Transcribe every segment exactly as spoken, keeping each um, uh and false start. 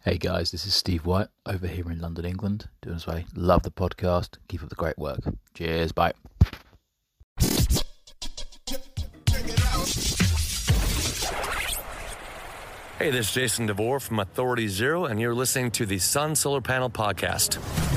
Hey guys, this is Steve White over here in London, England. Doing this way. Love the podcast. Keep up the great work. Cheers. Bye. Hey, this is Jason DeVore from Authority Zero, and you're listening to the Sun Solar Panel Podcast.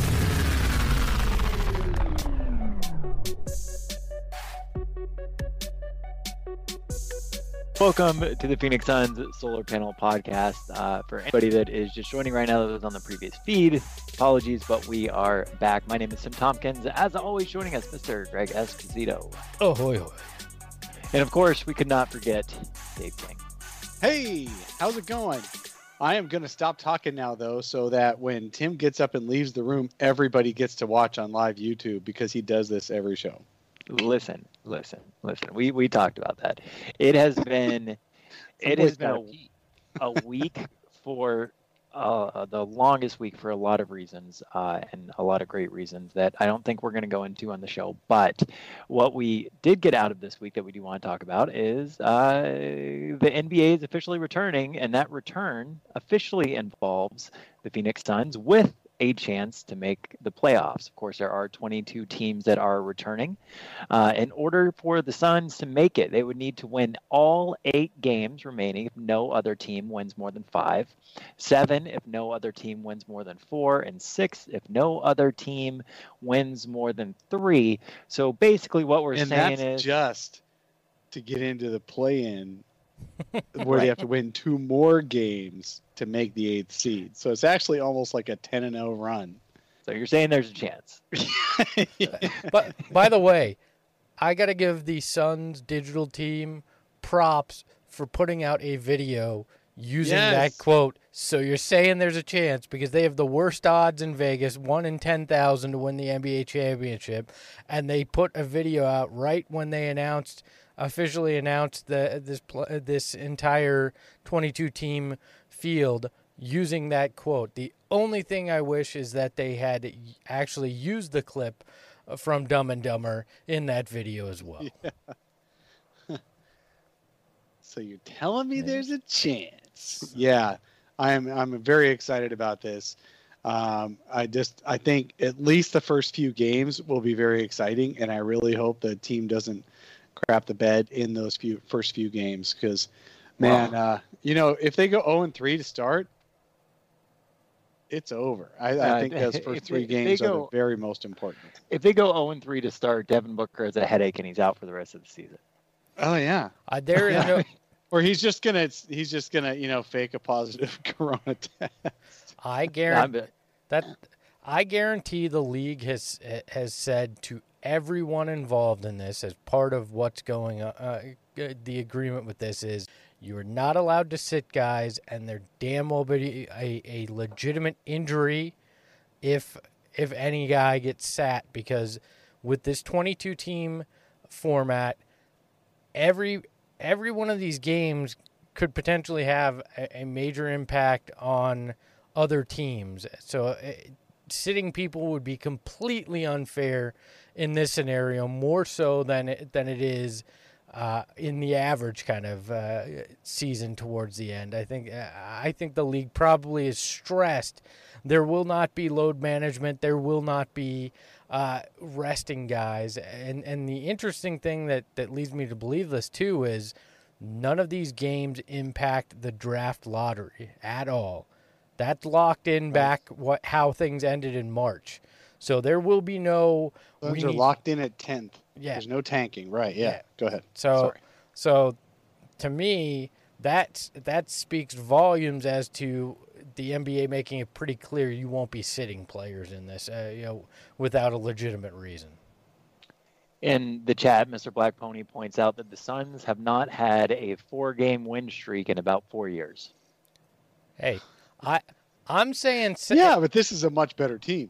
Welcome to the Phoenix Suns Solar Panel Podcast. Uh, for anybody that is just joining right now that was on the previous feed, apologies, but we are back. My name is Tim Tompkins. As always, joining us, Mister Greg Esposito. Oh, hoy, hoy. And of course, we could not forget Dave King. Hey, how's it going? I am going to stop talking now, though, so that when Tim gets up and leaves the room, everybody gets to watch on live YouTube because he does this every show. Listen, listen, listen. We we talked about that. It has been, it has been a, a week for uh, the longest week for a lot of reasons, uh, and a lot of great reasons that I don't think we're going to go into on the show. But what we did get out of this week that we do want to talk about is uh, the N B A is officially returning, and that return officially involves the Phoenix Suns with a chance to make the playoffs. Of course, there are twenty-two teams that are returning. Uh, in order for the Suns to make it, they would need to win all eight games remaining if no other team wins more than five, seven if no other team wins more than four, and six if no other team wins more than three. So basically what we're and saying that's is just to get into the play-in where Right. they have to win two more games to make the eighth seed. So it's actually almost like a ten and oh run. So you're saying there's a chance. But by the way, I got to give the Suns digital team props for putting out a video using Yes. that quote. So you're saying there's a chance because they have the worst odds in Vegas, one in ten thousand to win the N B A championship, and they put a video out right when they announced officially announced the this pl- this entire twenty-two team field using that quote. The only thing I wish is that they had actually used the clip from Dumb and Dumber in that video as well. Yeah. So you're telling me there's a chance? Yeah, I'm. I'm very excited about this. Um, I just, I think at least the first few games will be very exciting, and I really hope the team doesn't crap the bed in those few first few games because, man, Wow. uh, you know, if they go oh and three to start, it's over. I, I Uh, think those if first they- three if they games are go- the very most important. If they go oh and three to start, Devin Booker has a headache and he's out for the rest of the season. Oh yeah. Uh, there is Yeah. no, Or he's just gonna, he's just gonna, you know, fake a positive corona test. I I'm- guarantee that I guarantee the league has has said to everyone involved in this as part of what's going on. Uh, the agreement with this is you are not allowed to sit guys, and there damn well be a, a legitimate injury if if any guy gets sat, because with this twenty-two team format, every every one of these games could potentially have a, a major impact on other teams. So uh, sitting people would be completely unfair in this scenario, more so than it, than it is uh, in the average kind of uh, season towards the end. I think I think the league probably is stressed. There will not be load management. There will not be uh, resting guys. And and the interesting thing that, that leads me to believe this too is none of these games impact the draft lottery at all. That's locked in back what how things ended in March. So there will be no Those we are need- locked in at tenth. Yeah. There's no tanking. Right. Yeah. Yeah. Go ahead. So Sorry. so to me that that speaks volumes as to the N B A making it pretty clear you won't be sitting players in this, uh, you know, without a legitimate reason. In the chat, Mister Black Pony points out that the Suns have not had a four-game win streak in about four years. Hey, I I'm saying si- Yeah, but this is a much better team.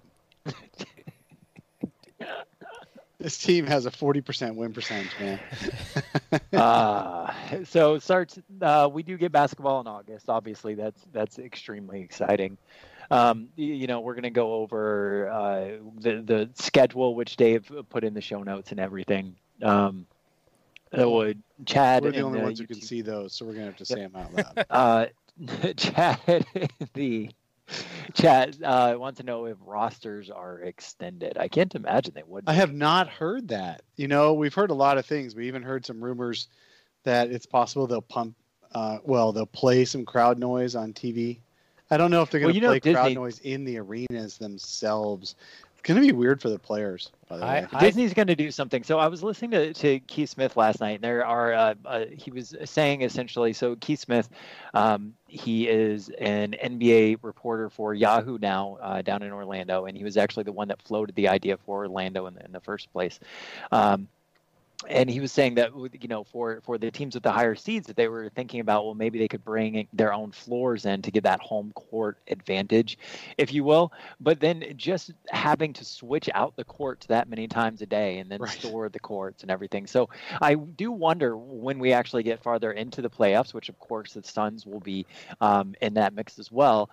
This team has a forty percent win percentage, man. uh, so it starts. Uh, we do get basketball in August. Obviously, that's that's extremely exciting. Um, you, you know, we're going to go over uh, the the schedule, which Dave put in the show notes and everything. Um, that would Chad. We're the and only the ones who can YouTube see those, so we're gonna have to say them out loud. Uh, Chad, the Chat uh, wants to know if rosters are extended. I can't imagine they would. I have not heard that. You know, we've heard a lot of things. We even heard some rumors that it's possible they'll pump. Uh, well, they'll play some crowd noise on T V. I don't know if they're going to well, play know, crowd Disney... noise in the arenas themselves. It's going to be weird for the players. By the I, way. Disney's going to do something. So I was listening to, to Keith Smith last night, and there are uh, uh, he was saying essentially. So Keith Smith, um, he is an N B A reporter for Yahoo now uh, down in Orlando, and he was actually the one that floated the idea for Orlando in the, in the first place. Um, And he was saying that, you know, for, for the teams with the higher seeds, that they were thinking about, well, maybe they could bring their own floors in to get that home court advantage, if you will. But then just having to switch out the courts that many times a day and then right. store the courts and everything. So I do wonder when we actually get farther into the playoffs, which of course the Suns will be um, in that mix as well.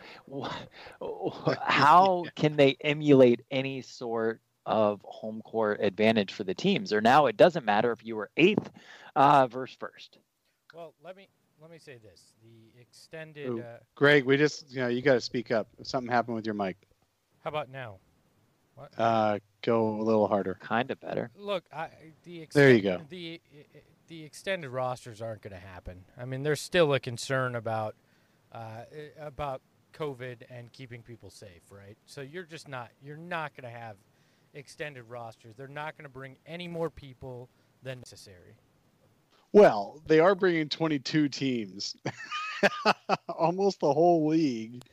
How can they emulate any sort of home court advantage for the teams? Or now it doesn't matter if you were eighth uh, versus first. Well, let me let me say this: the extended. Ooh, uh, Greg, we just you know you got to speak up. If something happened with your mic. How about now? What? Uh, go a little harder. Kind of better. Look, I, the ext- there you go. The the extended rosters aren't going to happen. I mean, there's still a concern about uh, about COVID and keeping people safe, right? So you're just not you're not going to have extended rosters. They're not going to bring any more people than necessary. Well, they are bringing twenty-two teams, almost the whole league.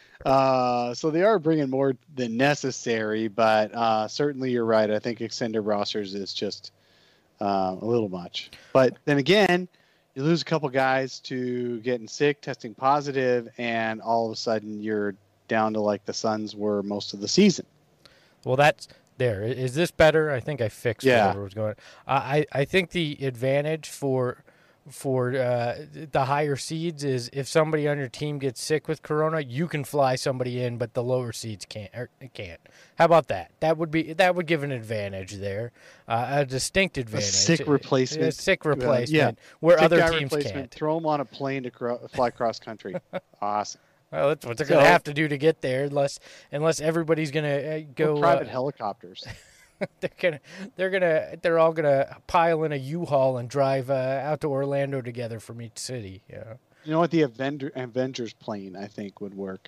Uh, so they are bringing more than necessary, but uh, certainly you're right. I think extended rosters is just uh, a little much. But then again, you lose a couple guys to getting sick, testing positive, and all of a sudden you're down to like the Suns were most of the season. Well, that's there. Is this better? I think I fixed yeah. whatever was going on. I, I think the advantage for for uh, the higher seeds is if somebody on your team gets sick with corona, you can fly somebody in, but the lower seeds can't. Or can't. How about that? That would be that would give an advantage there, uh, a distinct advantage. A sick replacement. A sick replacement. Uh, yeah. Where sick other teams can't. Throw them on a plane to cro- fly cross country. Awesome. Well, that's what they're So, going to have to do to get there, unless unless everybody's going to uh, go private uh, helicopters. they're gonna, they're gonna, they're all gonna pile in a U-Haul and drive uh, out to Orlando together from each city. Yeah. You know what? The Avenger, Avengers plane, I think, would work.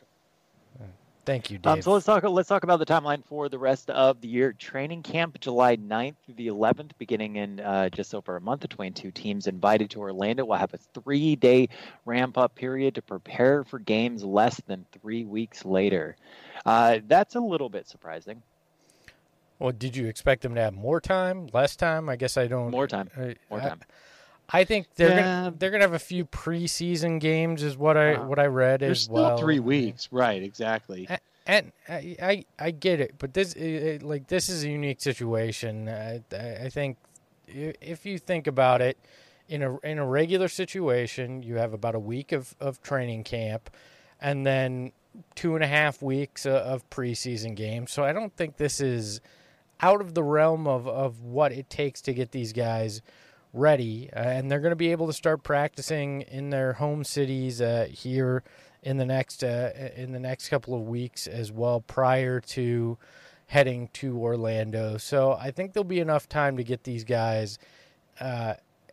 Thank you, Dave. Um, so let's talk. Let's talk about the timeline for the rest of the year. Training camp July ninth through the eleventh, beginning in uh, just over a month between two teams invited to Orlando. We'll have a three-day ramp-up period to prepare for games less than three weeks later. Uh, that's a little bit surprising. Well, did you expect them to have more time, less time? I guess I don't. More time. I, More time. I, I think they're Yeah. gonna they're gonna have a few preseason games, is what I Uh-huh. what I read There's as still well. three weeks, right? Exactly. And, and I, I I get it, but this it, like this is a unique situation. I, I think if you think about it, in a in a regular situation, you have about a week of, of training camp, and then two and a half weeks of preseason games. So I don't think this is out of the realm of, of what it takes to get these guys ready. Uh, and they're going to be able to start practicing in their home cities uh, here in the next uh, in the next couple of weeks as well, prior to heading to Orlando. So I think there'll be enough time to get these guys uh,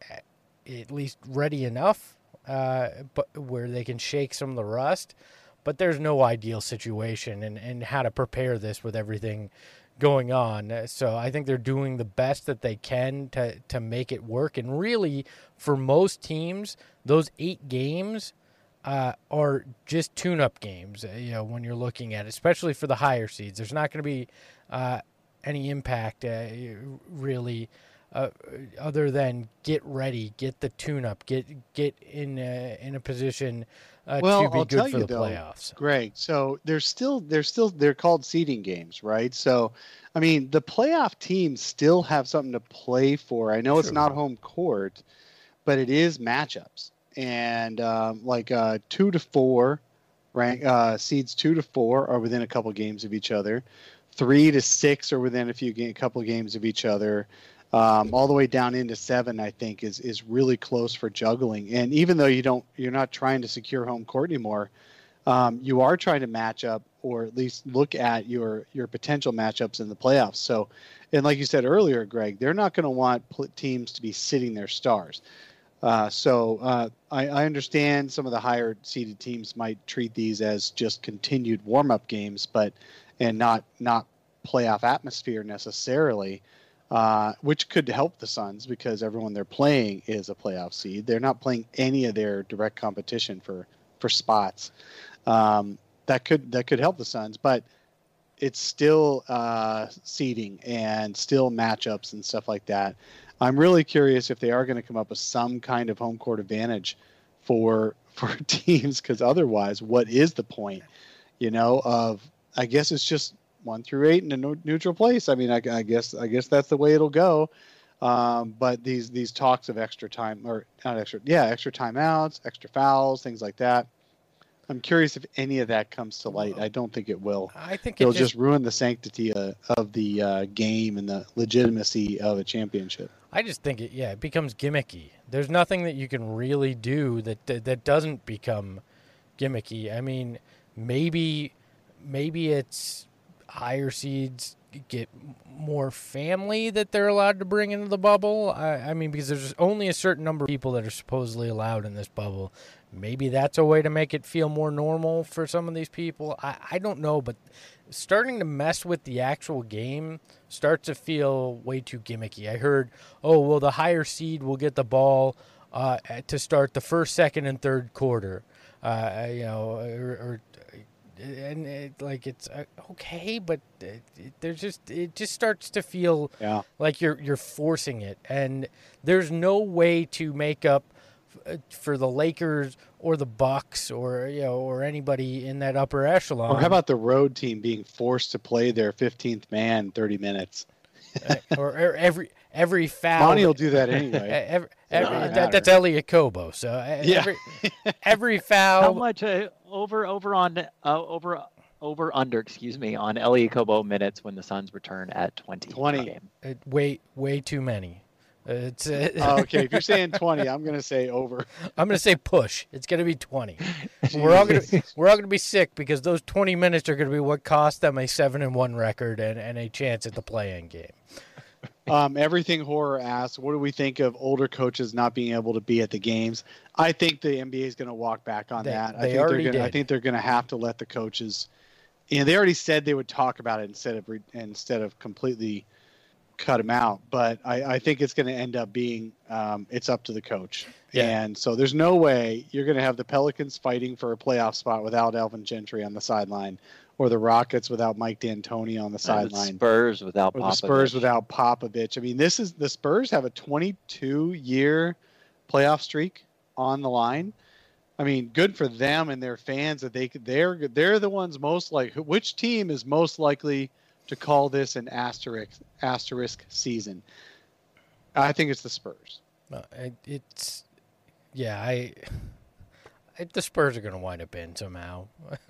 at least ready enough, uh, but where they can shake some of the rust. But there's no ideal situation and, and how to prepare this with everything going on. So I think they're doing the best that they can to, to make it work. And really, for most teams, those eight games uh, are just tune-up games, you know, when you're looking at it, especially for the higher seeds. There's not going to be uh, any impact, uh, really, uh, other than get ready, get the tune-up, get get in a, in a position uh, well, to be I'll good tell for you the though, playoffs. Greg. So there's still there's still they're called seeding games, right? So, I mean, the playoff teams still have something to play for. I know True. It's not home court, but it is matchups, and um, like uh, two to four rank uh, seeds two to four are within a couple games of each other. Three to six are within a few a couple of games of each other. Um, all the way down into seven, I think, is is really close for juggling. And even though you don't, you're not trying to secure home court anymore, um, you are trying to match up, or at least look at your your potential matchups in the playoffs. So, and like you said earlier, Greg, they're not going to want pl- teams to be sitting their stars. Uh, so uh, I, I understand some of the higher seeded teams might treat these as just continued warm up games, but and not not playoff atmosphere necessarily, uh, which could help the Suns because everyone they're playing is a playoff seed. They're not playing any of their direct competition for for spots. Um, that could that could help the Suns, but it's still uh, seeding and still matchups and stuff like that. I'm really curious if they are going to come up with some kind of home court advantage for for teams, because otherwise, what is the point? You know, of I guess it's just one through eight in a no, neutral place. I mean, I, I guess I guess that's the way it'll go. Um, but these these talks of extra time or not extra, yeah, extra timeouts, extra fouls, things like that. I'm curious if any of that comes to light. I don't think it will. I think it'll it just, just ruin the sanctity uh, of the uh, game and the legitimacy of a championship. I just think it, yeah, it becomes gimmicky. There's nothing that you can really do that that, that doesn't become gimmicky. I mean, maybe maybe it's higher seeds get more family that they're allowed to bring into the bubble. I, I mean, because there's only a certain number of people that are supposedly allowed in this bubble. Maybe that's a way to make it feel more normal for some of these people. I, I don't know, but starting to mess with the actual game starts to feel way too gimmicky. I heard, oh, well, the higher seed will get the ball uh, to start the first, second, and third quarter. Uh, you know, or, or and it, like it's uh, okay, but it, it, there's just it just starts to feel yeah. like you're you're forcing it, and there's no way to make up for the Lakers or the Bucks or you know or anybody in that upper echelon. Or how about the road team being forced to play their fifteenth man thirty minutes? uh, or, or every every foul. Monty will do that anyway. every, every, that, that's Elliot Kobo. So uh, yeah. every every foul. How much uh, over over on uh, over over under? Excuse me, on Elliot Kobo minutes when the Suns return at twenty. twenty. Game. Uh, way way too many. Uh, it's uh, oh, okay. If you're saying twenty, I'm going to say over. I'm going to say push. It's going to be twenty. we're all going to we're all going to be sick because those twenty minutes are going to be what cost them a seven and one record and, and a chance at the play-in game. Um, everything Horror asks, what do we think of older coaches not being able to be at the games? I think the N B A is going to walk back on they, that. They I think already they're gonna, did. I think they're going to have to let the coaches. You know, they already said they would talk about it instead of re, instead of completely cut them out. But I, I think it's going to end up being um, it's up to the coach. Yeah. And so there's no way you're going to have the Pelicans fighting for a playoff spot without Alvin Gentry on the sideline, or the Rockets without Mike D'Antoni on the sideline. Spurs without Or Popovich. the Spurs without Popovich. I mean, this is the Spurs have a twenty-two year playoff streak on the line. I mean, good for them and their fans that they could. They're they're the ones most like. Which team is most likely to call this an asterisk asterisk season? I think it's the Spurs. Uh, it, it's yeah. I. The Spurs are going to wind up in somehow.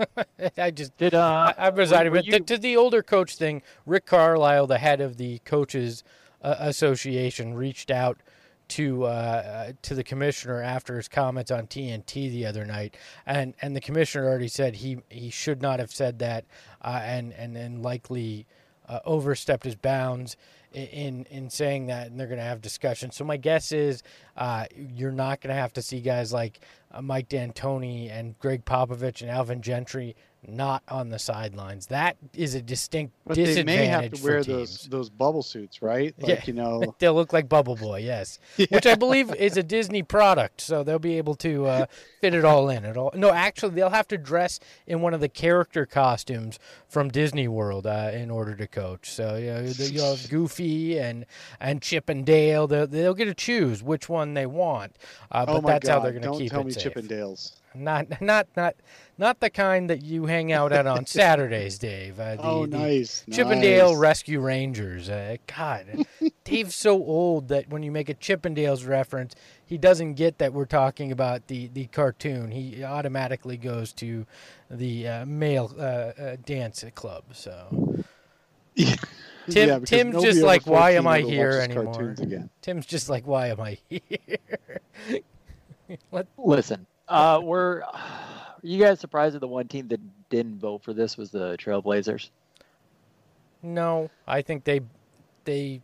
I just did. Uh, I, I presided were, were with you... to, to the older coach thing. Rick Carlisle, the head of the Coaches uh, Association, reached out to uh, to the commissioner after his comments on T N T the other night, and and the commissioner already said he he should not have said that, uh, and and and likely uh, overstepped his bounds in in saying that, and they're going to have discussions. So my guess is uh, you're not going to have to see guys like uh, Mike D'Antoni and Greg Popovich and Alvin Gentry not on the sidelines. That is a distinct but disadvantage they may have to wear for teams. those those bubble suits, right? Like, yeah, you know, they'll look like Bubble Boy, yes, yeah. which I believe is a Disney product, so they'll be able to uh, fit it all in. It all no, actually, they'll have to dress in one of the character costumes from Disney World uh, in order to coach. So you know, you'll have Goofy and and Chip and Dale. They'll, they'll get to choose which one they want, uh, but oh my that's God, how they're going to don't keep tell it me safe. Chip and Dale's. Not, not, not, not the kind that you hang out at on Saturdays, Dave. Uh, the, oh, the nice. Chippendale nice. Rescue Rangers. Uh, God, Dave's so old that when you make a Chippendales reference, he doesn't get that we're talking about the, the cartoon. He automatically goes to the uh, male uh, uh, dance club. So, yeah. Tim, yeah, Tim's nobody just over like, why fourteen am I ever here watches anymore? cartoons again. Tim's just like, why am I here? Let, Listen, uh, we're you guys surprised that the one team that didn't vote for this was the Trailblazers? No, I think they they.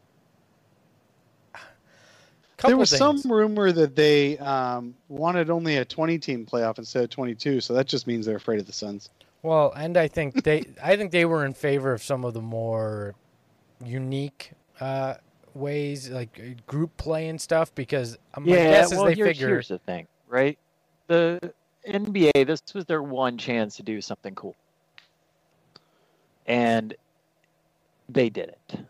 There was things. some rumor that they um, wanted only a twenty-team playoff instead of twenty-two, so that just means they're afraid of the Suns. Well, and I think they, I think they were in favor of some of the more unique uh, ways, like group play and stuff, because my yeah, guess is well, they here's, figure. here's the thing, right? The N B A, this was their one chance to do something cool, and they did it.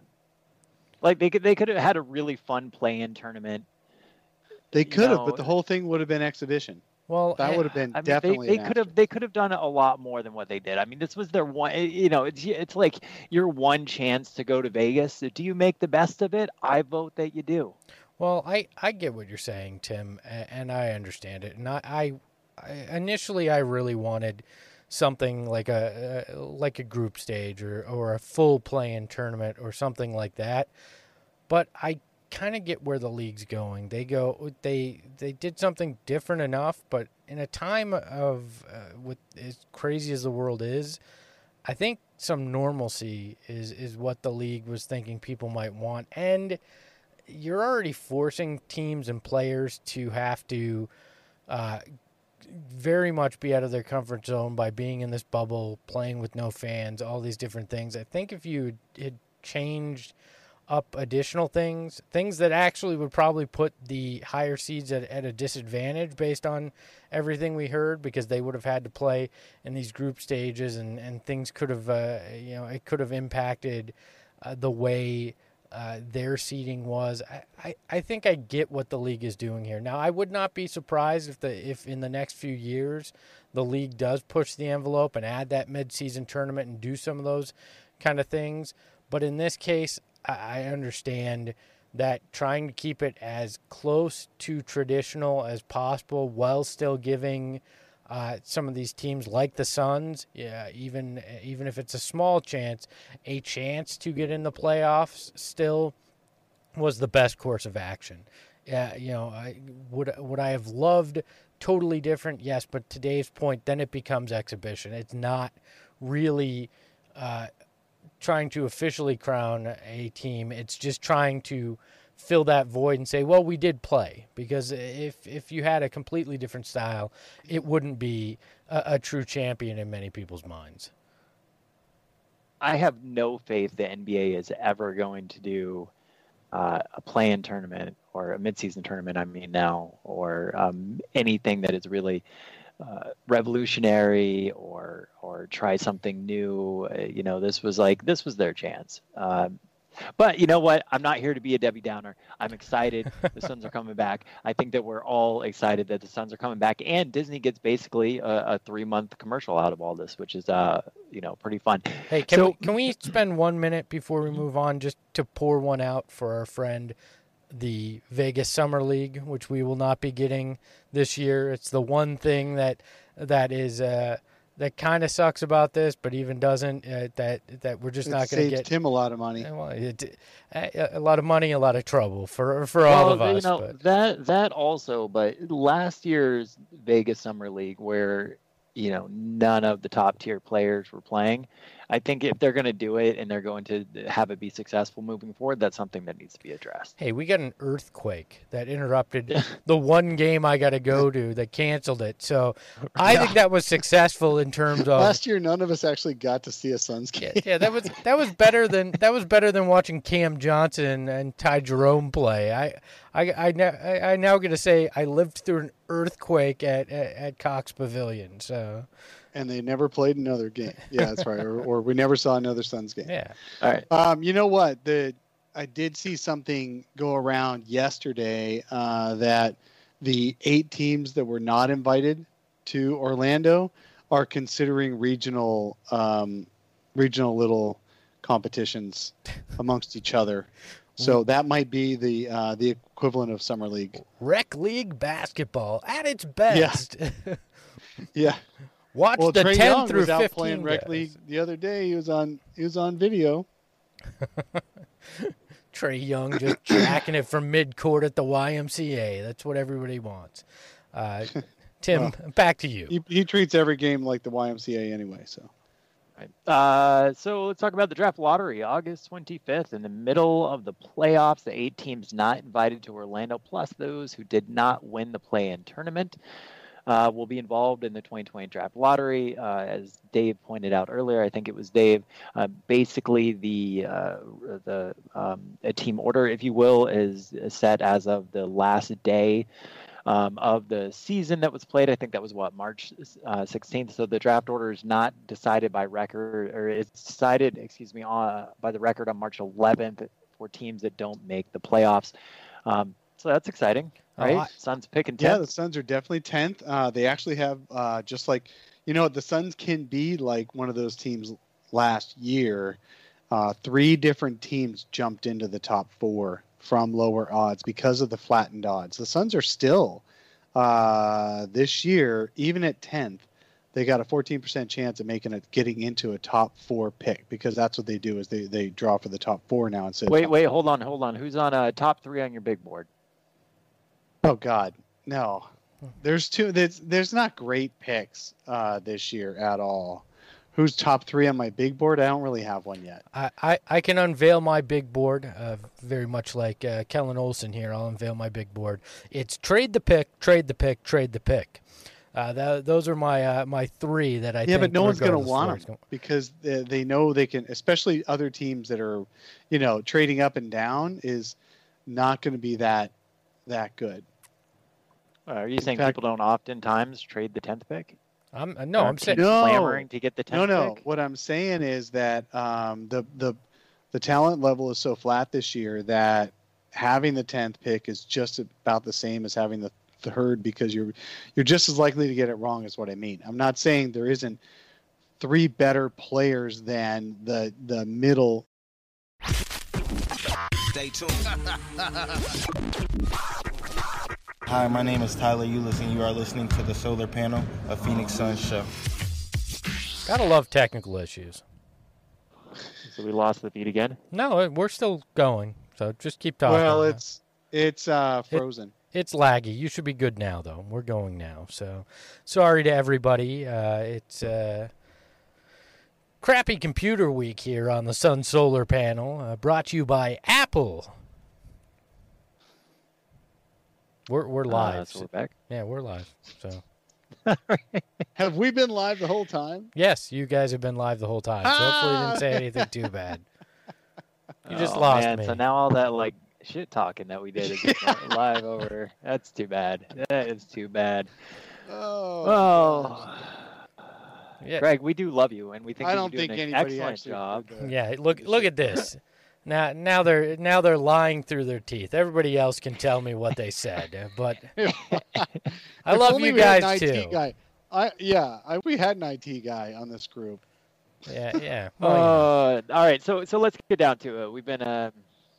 Like they could, they could have had a really fun play-in tournament. They could have, know, but the whole thing would have been exhibition. Well, that I- would have been I mean, definitely. they, they an could have asterisk. they could have done a lot more than what they did. I mean, this was their one. You know, it's it's like your one chance to go to Vegas. Do you make the best of it? I vote that you do. Well, I, I get what you're saying, Tim, a- and I understand it. And I, I, I initially I really wanted something like a uh, like a group stage or, or a full play-in tournament or something like that. But I kind of get where the league's going. They go they they did something different enough, but in a time of uh, with as crazy as the world is, I think some normalcy is is what the league was thinking people might want. And you're already forcing teams and players to have to uh, very much be out of their comfort zone by being in this bubble, playing with no fans, all these different things. I think if you had changed up additional things, things that actually would probably put the higher seeds at, at a disadvantage based on everything we heard, because they would have had to play in these group stages and, and things could have, uh, you know, it could have impacted uh, the way Uh, their seeding was. I, I, I think I get what the league is doing here. Now, I would not be surprised if the if in the next few years the league does push the envelope and add that mid-season tournament and do some of those kind of things. But in this case, I, I understand that trying to keep it as close to traditional as possible while still giving Uh, some of these teams like the Suns, yeah, even even if it's a small chance, a chance to get in the playoffs still was the best course of action. Yeah, you know, I would would I have loved totally different? Yes, but today's point, then it becomes exhibition. It's not really uh, trying to officially crown a team. It's just trying to fill that void and say, well, we did play. Because if if you had a completely different style, it wouldn't be a, a true champion in many people's minds. I have no faith the N B A is ever going to do uh, a play-in tournament or a midseason tournament, I mean now, or um, anything that is really uh, revolutionary or or try something new. Uh, you know, this was like, this was their chance. Um, But you know what? I'm not here to be a Debbie Downer. I'm excited. The Suns are coming back. I think that we're all excited that the Suns are coming back, and Disney gets basically a, a three-month commercial out of all this, which is, uh, you know, pretty fun. Hey, can So- we can we spend one minute before we move on just to pour one out for our friend, the Vegas Summer League, which we will not be getting this year. It's the one thing that that is uh, that kind of sucks about this, but even doesn't. Uh, that that we're just It not going to saved get. him a lot of money. Uh, Well, it, a, a lot of money, a lot of trouble for for all well, of us. you know, but. that that also, but last year's Vegas Summer League, where you know none of the top tier players were playing, I think if they're going to do it and they're going to have it be successful moving forward, that's something that needs to be addressed. Hey, we got an earthquake that interrupted the one game I got to go to that canceled it. So I think that was successful in terms of Last year, none of us actually got to see a Suns game. yeah, yeah, that was that was better than that was better than watching Cam Johnson and Ty Jerome play. I I I, now- I, I now get to say I lived through an earthquake at at, at Cox Pavilion. So And they never played another game. Yeah, that's right. Or, or we never saw another Suns game. yeah, All right. Um, you know what? The I did see something go around yesterday uh, that the eight teams that were not invited to Orlando are considering regional um, regional little competitions amongst each other. So that might be the uh, the equivalent of summer league. rec league basketball at its best. Yeah. Watch Well, the Trae ten Young through was out fifteen playing rec guys. league the other day. He was on he was on video. Trae Young just jacking it from midcourt at the Y M C A. That's what everybody wants. Uh, Tim, Well, back to you. He, he treats every game like the Y M C A anyway. So. Right. Uh, so let's talk about the draft lottery. August twenty-fifth, in the middle of the playoffs, the eight teams not invited to Orlando, plus those who did not win the play-in tournament, uh, will be involved in the twenty twenty draft lottery. Uh, as Dave pointed out earlier, I think it was Dave. Uh, basically, the uh, the um, a team order, if you will, is set as of the last day Um, of the season that was played. I think that was what, March uh, sixteenth. So the draft order is not decided by record, or it's decided, excuse me, uh, by the record on March eleventh for teams that don't make the playoffs. Um, so that's exciting, right? Oh, I- Suns picking tenth. Yeah, the Suns are definitely tenth. Uh, they actually have uh, just like, you know, the Suns can be like one of those teams last year. Uh, three different teams jumped into the top four from lower odds because of the flattened odds. The Suns are still, uh, this year, even at tenth, they got a fourteen percent chance of making it, getting into a top four pick, because that's what they do is they, they draw for the top four now. Instead Wait, of, wait, hold on, hold on. Who's on uh, top three on your big board? Oh God, no. There's two. There's, there's not great picks uh, this year at all. Who's top three on my big board? I don't really have one yet. I, I, I can unveil my big board, uh, very much like uh, Kellen Olson here. I'll unveil my big board. It's trade the pick, trade the pick, trade the pick. Uh, that, those are my uh, my three that I yeah, think. but no one's going to regardless want where them it's going- because they, they know they can, especially other teams that are, you know, trading up and down is not going to be that that good. Uh, are you saying fact- people don't oftentimes trade the tenth pick? I'm uh, no, I'm Aren't saying teams No. clamoring to get the No, tenth no. pick? What I'm saying is that um, the the the talent level is so flat this year that having the tenth pick is just about the same as having the third, because you're you're just as likely to get it wrong, is what I mean. I'm not saying there isn't three better players than the the middle. Stay tuned. Hi, my name is Tyler Eulis, and you are listening to the Solar Panel, a Phoenix Suns show. Gotta love technical issues. So we lost the feed again. No, uh, we're still going, so just keep talking. Well, it's it's uh, It- frozen. It's laggy. You should be good now, though. We're going now. So, sorry to everybody. Uh, it's uh, crappy computer week here on the Sun Solar Panel, uh, brought to you by Apple. We're we're live. Uh, so we're back. Yeah, we're live. So, Have we been live the whole time? yes, you guys have been live the whole time. So hopefully, you didn't say anything too bad. You just Oh, lost man. me. So now all that like shit talking that we did is just live over. That's too bad. That is too bad. Oh, Oh, Yeah. Greg, we do love you, and we think I that don't you're doing think an anybody excellent actually. job. did that. Yeah, look look at this. Now now they're now they're lying through their teeth. Everybody else can tell me what they said, but I If love only you we had an guys I T too. Guy. I yeah, I, we had an I T guy on this group. Yeah, yeah. Well, you know. Uh, all right, so so let's get down to it. We've been um,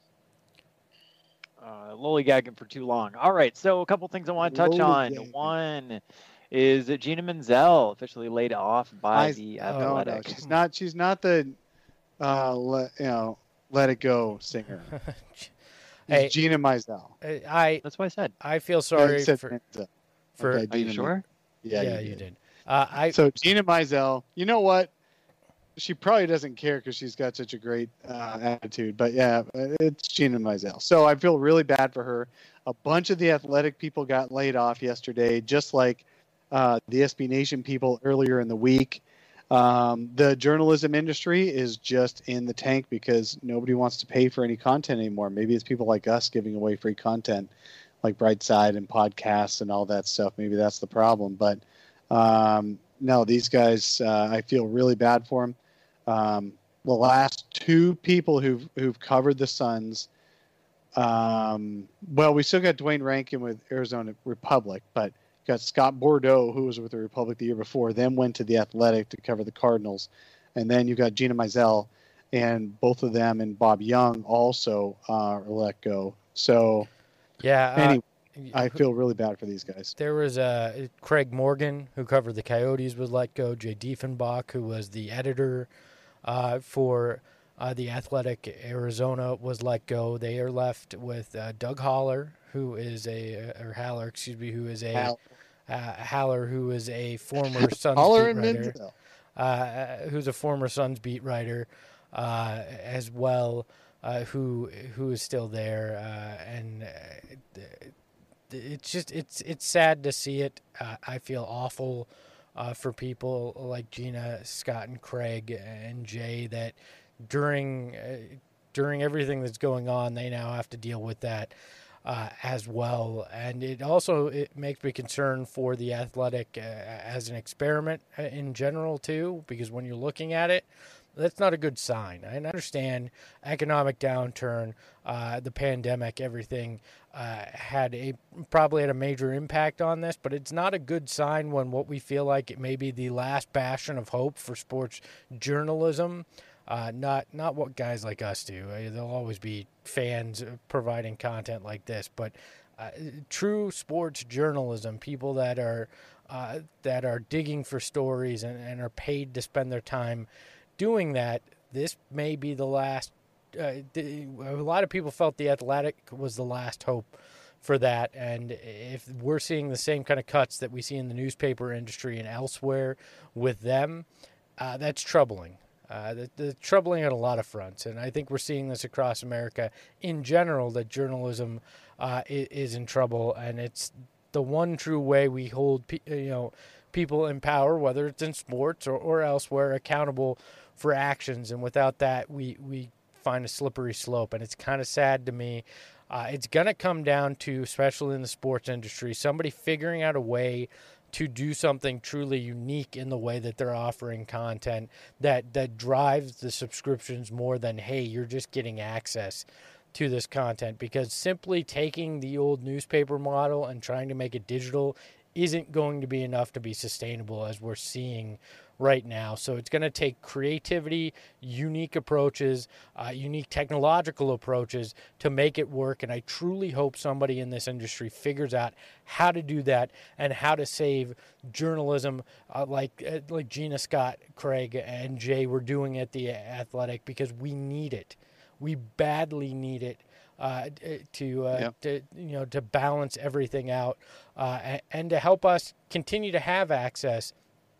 uh, lollygagging for too long. All right, so a couple things I want to touch on. Lollygagging. One is that Gina Menzel officially laid off by I- the No, no, Athletic. she's not. She's not the, uh, let, you know, let it go singer. It's Hey, Gina Mizell. I That's what I said. I feel Yeah, sorry you said for Menzel. for Okay, Are you Gina sure? Yeah, yeah, you, you did. did. Uh, I So Gina Mizell, you know what? She probably doesn't care because she's got such a great uh, attitude. But yeah, it's Gina Mizell. So I feel really bad for her. A bunch of the Athletic people got laid off yesterday, just like uh, the S B Nation people earlier in the week. Um, the journalism industry is just in the tank because nobody wants to pay for any content anymore. Maybe it's people like us giving away free content, like Brightside and podcasts and all that stuff. Maybe that's the problem. But um, no, these guys, uh, I feel really bad for them. Um, the last two people who've who've covered the Suns, um, well, we still got Dwayne Rankin with Arizona Republic, but got Scott Bordeaux, who was with the Republic the year before, then went to the Athletic to cover the Cardinals, and then you got Gina Mizell, and both of them and Bob Young also uh, let go. So yeah. Uh, anyway, I feel really bad for these guys. There was uh, Craig Morgan, who covered the Coyotes, was let go. Jay Diefenbach, who was the editor uh, for uh, the Athletic Arizona, was let go. They are left with uh, Doug Haller, who is a, or Haller, excuse me, who is a, Hal. uh, Haller, who is a former Suns Haller beat and writer, Menzel. uh, who's a former Suns beat writer uh, as well, uh, who who is still there, uh, and uh, it's just it's it's sad to see it. Uh, I feel awful uh, for people like Gina, Scott, and Craig and Jay that during uh, during everything that's going on, they now have to deal with that uh, as well. And it also it makes me concerned for the Athletic uh, as an experiment in general too, because when you're looking at it, that's not a good sign. I understand economic downturn, uh, the pandemic, everything uh, had a probably had a major impact on this, but it's not a good sign when what we feel like it may be the last bastion of hope for sports journalism. Uh, not not what guys like us do. Uh, there'll always be fans providing content like this, but uh, true sports journalism, people that are uh, that are digging for stories and, and are paid to spend their time doing that, this may be the last. Uh, the, a lot of people felt the Athletic was the last hope for that, and if we're seeing the same kind of cuts that we see in the newspaper industry and elsewhere with them, uh, that's troubling. Uh, the, the troubling on a lot of fronts, and I think we're seeing this across America in general, that journalism uh, is, is in trouble, and it's the one true way we hold pe- you know people in power, whether it's in sports or, or elsewhere, accountable for actions, and without that, we, we find a slippery slope, and it's kind of sad to me. Uh, it's going to come down to, especially in the sports industry, somebody figuring out a way to do something truly unique in the way that they're offering content that, that drives the subscriptions more than, hey, you're just getting access to this content. Because simply taking the old newspaper model and trying to make it digital isn't going to be enough to be sustainable, as we're seeing right now. So it's going to take creativity, unique approaches, uh, unique technological approaches to make it work. And I truly hope somebody in this industry figures out how to do that and how to save journalism uh, like uh, like Gina, Scott, Craig, and Jay were doing at the Athletic, because we need it. We badly need it. Uh, to uh, yep. to you know to balance everything out uh, and, and to help us continue to have access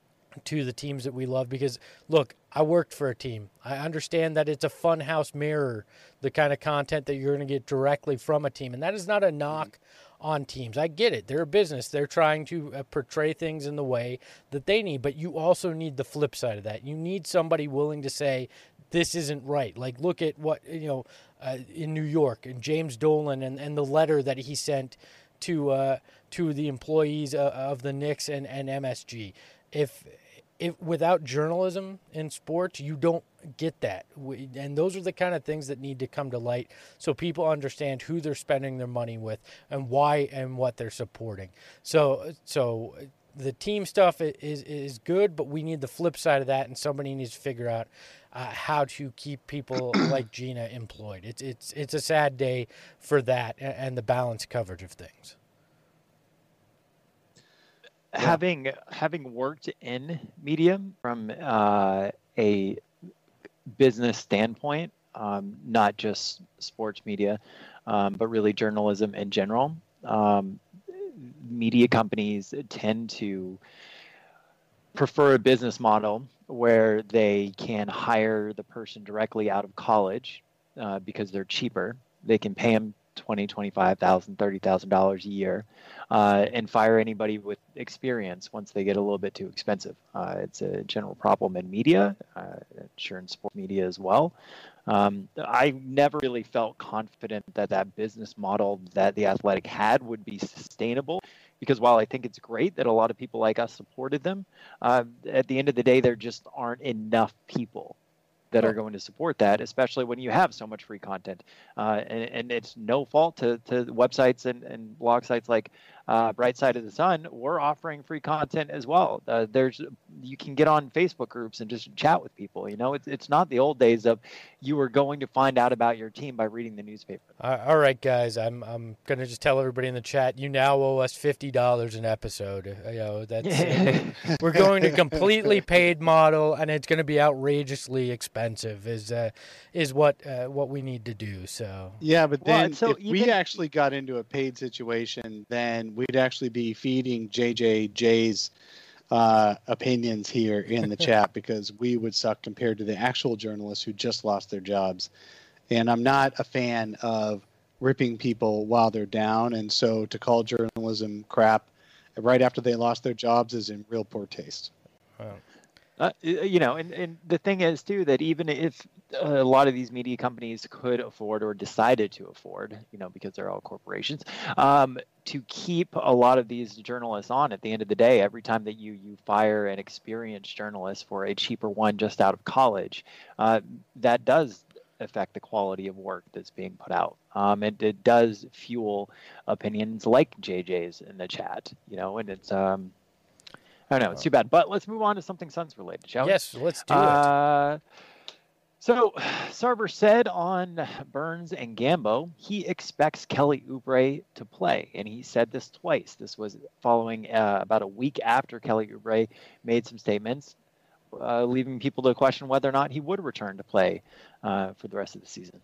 to the teams that we love. Because look, I worked for a team. I understand that it's a funhouse mirror, the kind of content that you're going to get directly from a team, and that is not a knock on teams. I get it. They're a business. They're trying to uh, portray things in the way that they need, but you also need the flip side of that. You need somebody willing to say, this isn't right. Like, look at what, you know, uh, in New York, and James Dolan and, and the letter that he sent to uh, to the employees uh, of the Knicks and, and M S G. If if without journalism in sports, you don't get that. We, and those are the kind of things that need to come to light so people understand who they're spending their money with and why and what they're supporting. So so the team stuff is is good, but we need the flip side of that, and somebody needs to figure out uh, how to keep people like Gina employed. It's it's it's a sad day for that and, and the balanced coverage of things. Having having worked in media from uh, a business standpoint, um, not just sports media, um, but really journalism in general, um, media companies tend to prefer a business model where they can hire the person directly out of college uh, because they're cheaper. They can pay them twenty thousand dollars, twenty-five thousand dollars, thirty thousand dollars a year, uh, and fire anybody with experience once they get a little bit too expensive. Uh, it's a general problem in media, uh, sure in sports media as well. Um, I never really felt confident that that business model that the Athletic had would be sustainable, because while I think it's great that a lot of people like us supported them, uh, at the end of the day, there just aren't enough people that are going to support that, especially when you have so much free content. Uh, and, and it's no fault to, to websites and, and blog sites like uh, Bright Side of the Sun. We're offering free content as well. Uh, there's you can get on Facebook groups and just chat with people. You know, it's it's not the old days of you were going to find out about your team by reading the newspaper. Uh, all right, guys, I'm I'm gonna just tell everybody in the chat, you now owe us fifty dollars an episode. You know, that's uh, we're going to completely paid model, and it's going to be outrageously expensive. Is uh, is what uh, what we need to do. So yeah, but then well, so if even... we actually got into a paid situation, then we'd actually be feeding J J J's uh, opinions here in the chat because we would suck compared to the actual journalists who just lost their jobs. And I'm not a fan of ripping people while they're down. And so to call journalism crap right after they lost their jobs is in real poor taste. Wow. Uh, you know, and, and the thing is, too, that even if a lot of these media companies could afford or decided to afford, you know, because they're all corporations, um, to keep a lot of these journalists on at the end of the day, every time that you, you fire an experienced journalist for a cheaper one just out of college, uh, that does affect the quality of work that's being put out. Um, and it does fuel opinions like J J's in the chat, you know, and it's... Um, I don't know. It's too bad. But let's move on to something Suns related, shall we? Yes, let's do uh, it. So Sarver said on Burns and Gambo, he expects Kelly Oubre to play. And he said this twice. This was following uh, about a week after Kelly Oubre made some statements, uh, leaving people to question whether or not he would return to play uh, for the rest of the season.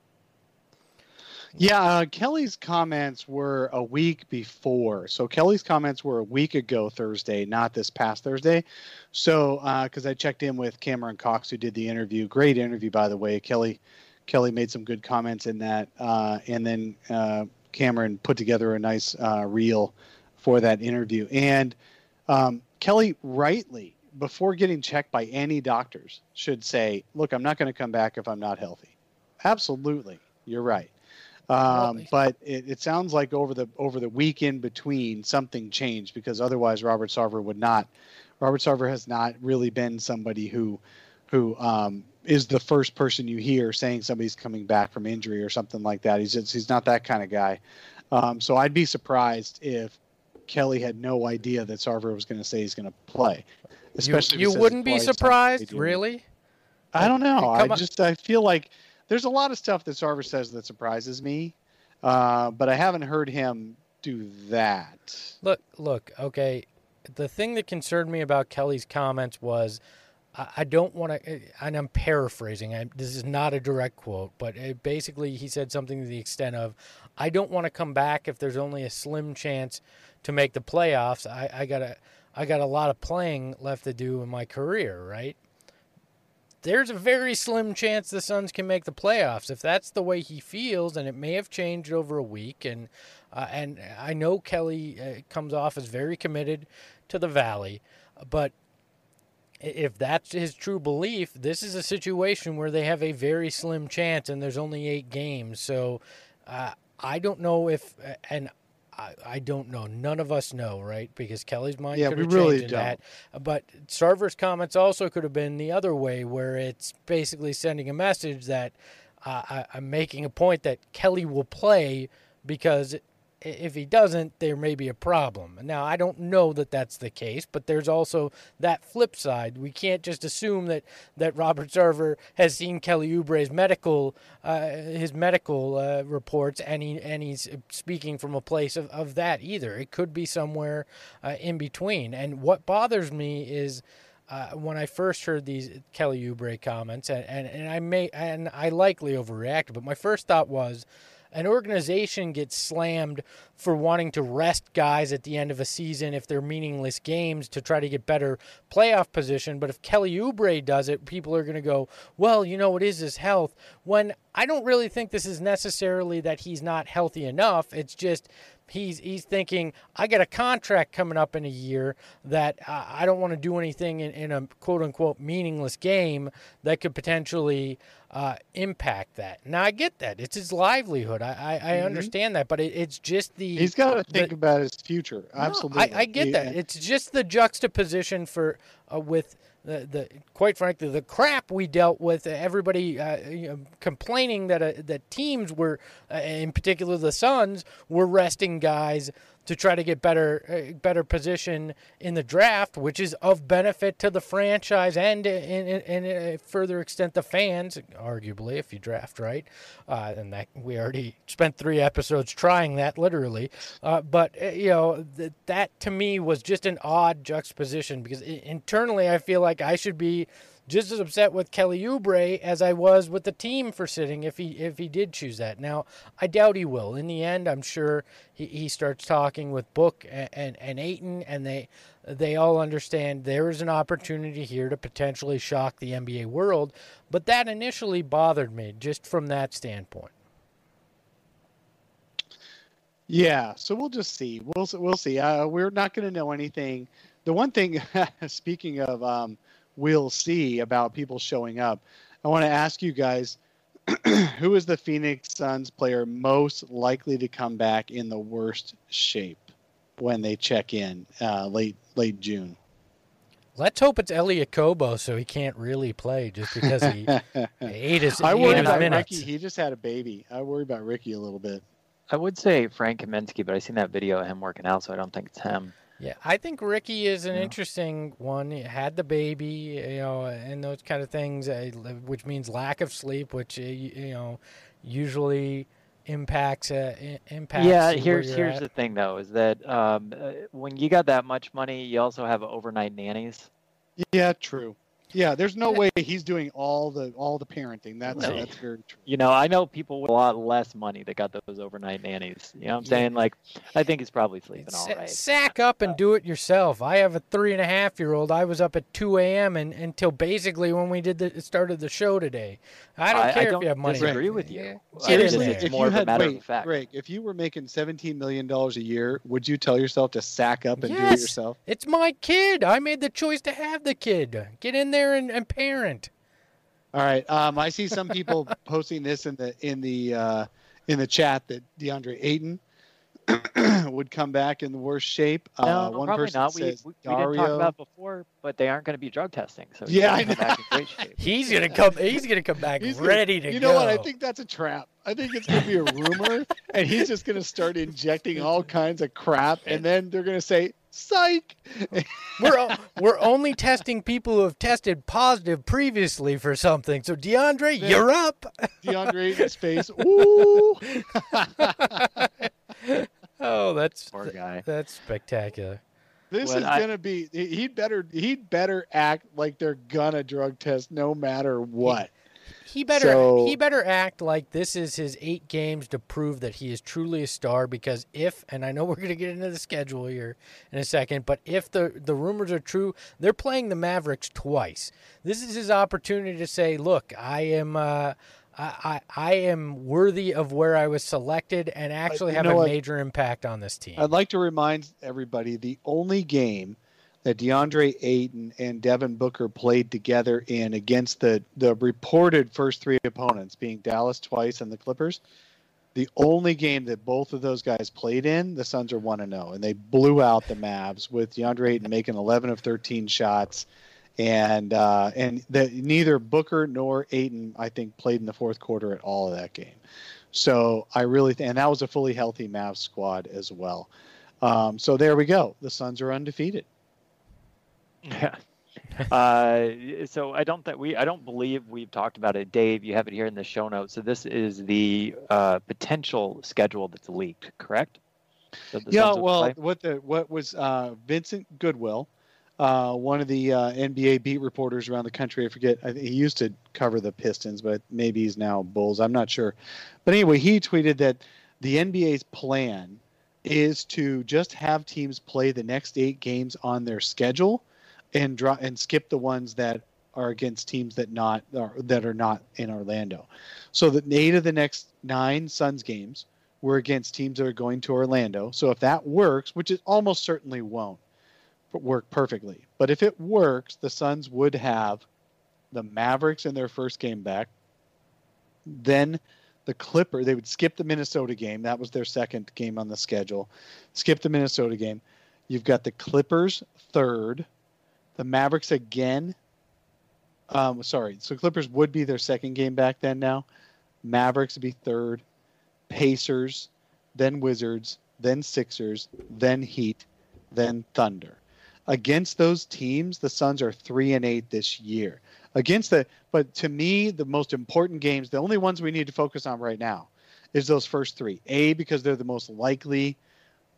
Yeah, uh, Kelly's comments were a week before. So Kelly's comments were a week ago Thursday, not this past Thursday. So because uh, I checked in with Cameron Cox, who did the interview. Great interview, by the way. Kelly Kelly made some good comments in that. Uh, and then uh, Cameron put together a nice uh, reel for that interview. And um, Kelly rightly, before getting checked by any doctors, should say, look, I'm not going to come back if I'm not healthy. Absolutely. You're right. Um, but it, it sounds like over the over the week in between, something changed because otherwise Robert Sarver would not. Robert Sarver has not really been somebody who who um, is the first person you hear saying somebody's coming back from injury or something like that. He's just, he's not that kind of guy. Um, so I'd be surprised if Kelly had no idea that Sarver was going to say he's going to play. Especially you, you wouldn't be surprised, really? I don't know. I Come just I feel like. There's a lot of stuff that Sarver says that surprises me, uh, but I haven't heard him do that. Look, look, okay. The thing that concerned me about Kelly's comments was I, I don't want to, and I'm paraphrasing. I, this is not a direct quote, but it, basically he said something to the extent of, I don't want to come back if there's only a slim chance to make the playoffs. I, I got a, I got a lot of playing left to do in my career, right? There's a very slim chance the Suns can make the playoffs. If that's the way he feels, and it may have changed over a week, and uh, and I know Kelly uh, comes off as very committed to the Valley, but if that's his true belief, this is a situation where they have a very slim chance, and there's only eight games. So uh, I don't know if, and I, I don't know. None of us know, right? Because Kelly's mind yeah, could have we really changed in don't. that. But Sarver's comments also could have been the other way, where it's basically sending a message that uh, I, I'm making a point that Kelly will play because if he doesn't, there may be a problem. Now, I don't know that that's the case, but there's also that flip side. We can't just assume that, that Robert Sarver has seen Kelly Oubre's medical uh, his medical uh, reports, and he and he's speaking from a place of, of that either. It could be somewhere uh, in between. And what bothers me is uh, when I first heard these Kelly Oubre comments, and, and, and I may and I likely overreacted, but my first thought was, an organization gets slammed for wanting to rest guys at the end of a season if they're meaningless games to try to get better playoff position. But if Kelly Oubre does it, people are going to go, well, you know, it is his health. When I don't really think this is necessarily that he's not healthy enough. It's just he's he's thinking, I got a contract coming up in a year that uh, I don't want to do anything in, in a quote-unquote meaningless game that could potentially uh, impact that. Now, I get that. It's his livelihood. I, I, I mm-hmm. understand that, but it, it's just the... He's got to think the, about his future. No, Absolutely. I, I get yeah. that. It's just the juxtaposition for uh, with... The, the quite frankly, the crap we dealt with, everybody uh, you know, complaining that uh, that teams were, uh, in particular the Suns, were resting guys to try to get better uh, better position in the draft, which is of benefit to the franchise and, in, in, in a further extent, the fans, arguably, if you draft right. Uh, and that we already spent three episodes trying that, literally. Uh, but, uh, you know, th- that to me was just an odd juxtaposition because I- internally I feel like I should be just as upset with Kelly Oubre as I was with the team for sitting if he if he did choose that. Now, I doubt he will. In the end, I'm sure he, he starts talking with Book and, and, and Ayton, and they they all understand there is an opportunity here to potentially shock the N B A world. But that initially bothered me just from that standpoint. Yeah, so we'll just see. We'll we'll see. Uh, we're not going to know anything. The one thing, speaking of, um, we'll see about people showing up. I want to ask you guys, who is the Phoenix Suns player most likely to come back in the worst shape when they check in uh, late late June? Let's hope it's Elliot Kobo, so he can't really play just because he ate his, I ate worry his about minutes. Ricky. He just had a baby. I worry about Ricky a little bit. I would say Frank Kaminsky, but I seen that video of him working out, so I don't think it's him. Yeah, I think Ricky is an Yeah. interesting one. He had the baby, you know, and those kind of things, uh, which means lack of sleep, which uh, you you know usually impacts uh, i- impacts. Yeah, where here's you're here's at. the thing though, is that um, uh, when you got that much money, you also have overnight nannies. Yeah, true. Yeah, there's no way he's doing all the all the parenting. That's No. that's very true. You know, I know people with a lot less money that got those overnight nannies. You know what I'm Yeah. saying? Like, I think he's probably sleeping Sa- all right. Sack up and do it yourself. I have a three and a half year old. I was up at two a.m. and until basically when we did the started the show today. I don't I- I care don't if you have money. disagree with you. Yeah. I Get in Seriously, there. it's if more you of a had matter of wait, fact. Greg, if you were making seventeen million dollars a year, would you tell yourself to sack up and do it Yes. yourself? It's my kid. I made the choice to have the kid. Get in there and, and parent. All right. Um, I see some people posting this in the in the uh, in the chat that DeAndre Ayton would come back in the worst shape. No, uh, one probably person not. We, we, says we didn't talk Dario. about it before, but they aren't going to be drug testing. So he's Yeah, gonna I come know. back in great shape. He's gonna come. He's gonna come back He's gonna- ready to you go. know what? I think that's a trap. I think it's going to be a rumor, and he's just going to start injecting all kinds of crap, and then they're going to say, "Psych." we're o- we're only testing people who have tested positive previously for something. So DeAndre, Yeah. you're up. DeAndre Ayton's face. Ooh. Oh, that's Poor guy. that's spectacular. This Well, is I- gonna be. he- He'd better. He'd better act like they're gonna drug test no matter what. He better So- he better act like this is his eight games to prove that he is truly a star. Because if, and I know we're going to get into the schedule here in a second, but if the the rumors are true, they're playing the Mavericks twice. This is his opportunity to say, "Look, I am." Uh, I, I I am worthy of where I was selected and actually you have know a what? major impact on this team. I'd like to remind everybody the only game that DeAndre Ayton and Devin Booker played together in against the the reported first three opponents, being Dallas twice and the Clippers. The only game that both of those guys played in, the Suns are one and zero, and they blew out the Mavs with DeAndre Ayton making eleven of thirteen shots. And uh, and the, neither Booker nor Ayton, I think, played in the fourth quarter at all of that game. So I really th- and that was a fully healthy Mavs squad as well. Um, so there we go. The Suns are undefeated. Yeah. Uh, so I don't think we, I don't believe we've talked about it. Dave, you have it here in the show notes. So this is the uh, potential schedule that's leaked, correct? That the Yeah, Suns will well, play? what the what was uh, Vincent Goodwill, uh, one of the uh, N B A beat reporters around the country. I forget. I think he used to cover the Pistons, but maybe he's now Bulls. I'm not sure. But anyway, he tweeted that the N B A's plan is to just have teams play the next eight games on their schedule, and draw and skip the ones that are against teams that not are, that are not in Orlando. So that eight of the next nine Suns games were against teams that are going to Orlando. So if that works, which it almost certainly won't work perfectly, but if it works, the Suns would have the Mavericks in their first game back. Then the Clipper, they would skip the Minnesota game. That was their second game on the schedule. Skip the Minnesota game. You've got the Clippers third, the Mavericks again. Um, sorry, so Clippers would be their second game back then now. Mavericks would be third. Pacers, then Wizards, then Sixers, then Heat, then Thunder. Against those teams, the Suns are three and eight this year. Against the, but to me, the most important games, the only ones we need to focus on right now, is those first three. A, because they're the most likely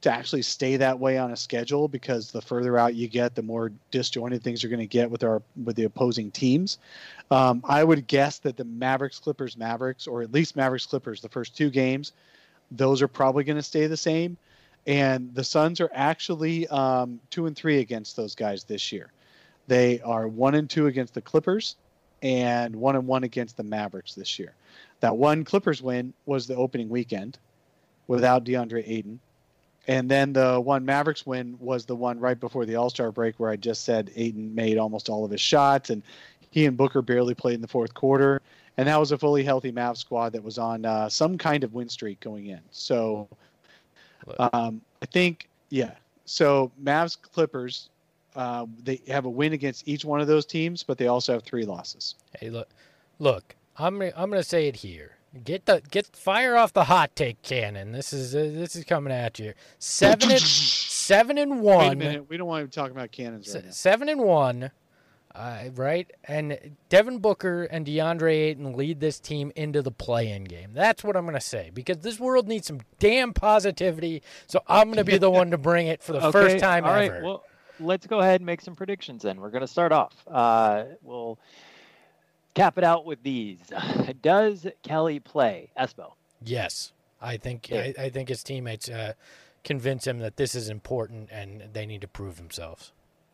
to actually stay that way on a schedule, because the further out you get, the more disjointed things are going to get with our with the opposing teams. Um, I would guess that the Mavericks, Clippers, Mavericks, or at least Mavericks, Clippers, the first two games, those are probably going to stay the same. And the Suns are actually um, two and three against those guys this year. They are one and two against the Clippers and one and one against the Mavericks this year. That one Clippers win was the opening weekend without DeAndre Ayton. And then the one Mavericks win was the one right before the All-Star break where I just said Ayton made almost all of his shots and he and Booker barely played in the fourth quarter. And that was a fully healthy Mavs squad that was on uh, some kind of win streak going in. So um, I think, yeah. So Mavs, Clippers, uh, they have a win against each one of those teams, but they also have three losses. Hey, look, look, I'm I'm going to say it here. Get the get fire off the hot take cannon. This is uh, this is coming at you. Seven and seven and one. Wait a minute. We don't want to talk about cannons right now. Seven and one, uh, right? And Devin Booker and DeAndre Ayton lead this team into the play-in game. That's what I'm going to say, because this world needs some damn positivity. So I'm going to be the one to bring it for the okay, first time all ever. Right, well, let's go ahead and make some predictions. Then we're going to start off. Uh, we'll cap it out with these. Does Kelly play? Espo. Yes, I think I, I think his teammates uh, convince him that this is important and they need to prove themselves.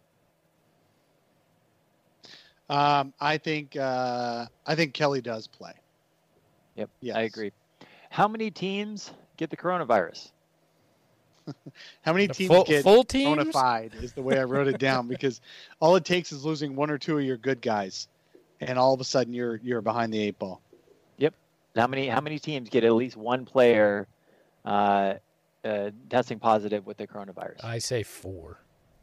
Um, I think uh, I think Kelly does play. Yep, yes. I agree. How many teams get the coronavirus? How many The teams full, get full teams? bona fide is the way I wrote it down, because all it takes is losing one or two of your good guys, and all of a sudden you're you're behind the eight ball. Yep. How many how many teams get at least one player uh, uh, testing positive with the coronavirus? I say four.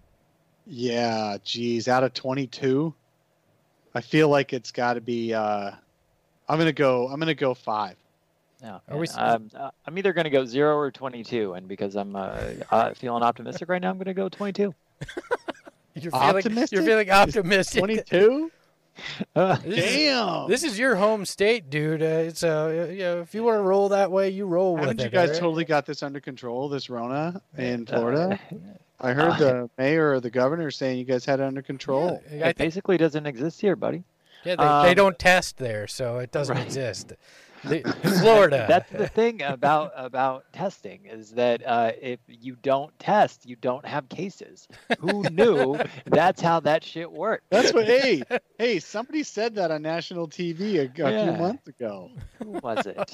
Yeah, geez, out of twenty-two, I feel like it's got to be. Uh, I'm gonna go. I'm gonna go five. No, Are we- um, uh, I'm either going to go zero or twenty-two, and because I'm uh, uh, feeling optimistic right now, I'm going to go twenty-two. You're feeling, Optimistic? You're feeling optimistic. twenty-two. Uh, This is- Damn. This is your home state, dude. Uh, it's uh, you know, if you want to roll that way, you roll with Haven't it. you guys alright? totally got this under control? This Rona in Uh, Florida. I heard uh, the mayor or the governor saying you guys had it under control. Yeah, I it think, basically doesn't exist here, buddy. yeah they, they um, don't test there, so it doesn't right. exist. The, Florida. That's the thing about about testing, is that uh, if you don't test, you don't have cases. Who knew that's how that shit worked? That's what. Hey, hey, somebody said that on national T V a, a few Yeah. months ago. Who was it?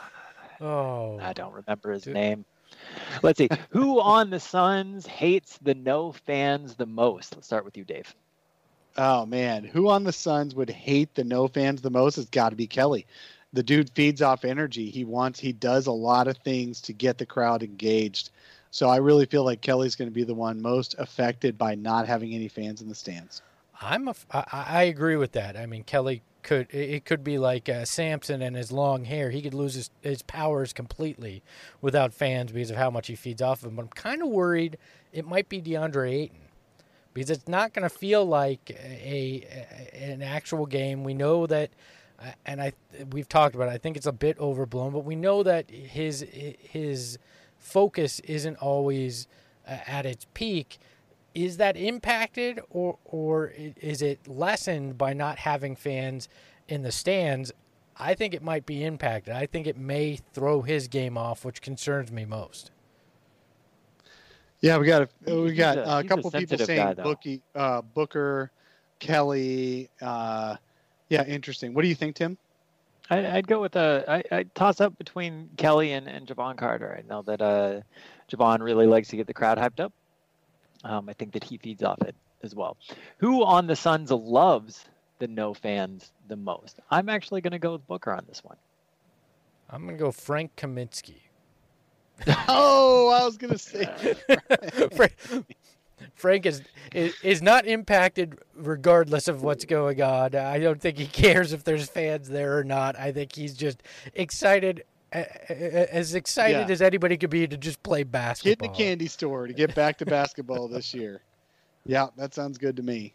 oh, I don't remember his Dude. name. Let's see. Who on the Suns hates the no fans the most? Let's start with you, Dave. Oh man, who on the Suns would hate the no fans the most? It's got to be Kelly. The dude feeds off energy. He wants, he does a lot of things to get the crowd engaged. So I really feel like Kelly's going to be the one most affected by not having any fans in the stands. I'm a, I, I agree with that. I mean, Kelly could, it could be like uh, Samson and his long hair. He could lose his, his powers completely without fans because of how much he feeds off of them. But I'm kind of worried it might be DeAndre Ayton, because it's not going to feel like a, a an actual game. We know that, uh, and I we've talked about it. I think it's a bit overblown, but we know that his his focus isn't always uh, at its peak. Is that impacted, or or is it lessened by not having fans in the stands? I think it might be impacted. I think it may throw his game off, which concerns me most. Yeah, we got a, we He's got a- a, he's a couple people sensitive saying guy, though. Bookie, uh, Booker, Kelly. Uh, yeah, interesting. What do you think, Tim? I, I'd go with a. I, I'd toss up between Kelly and, and Javon Carter. I know that uh, Javon really likes to get the crowd hyped up. Um, I think that he feeds off it as well. Who on the Suns loves the no fans the most? I'm actually going to go with Booker on this one. I'm going to go Frank Kaminsky. Oh, I was gonna say. Frank, Frank is, is is not impacted regardless of what's going on. I don't think he cares if there's fans there or not. I think he's just excited, as excited Yeah. as anybody could be to just play Get in basketball. the candy store to get back to basketball this year. Yeah, that sounds good to me.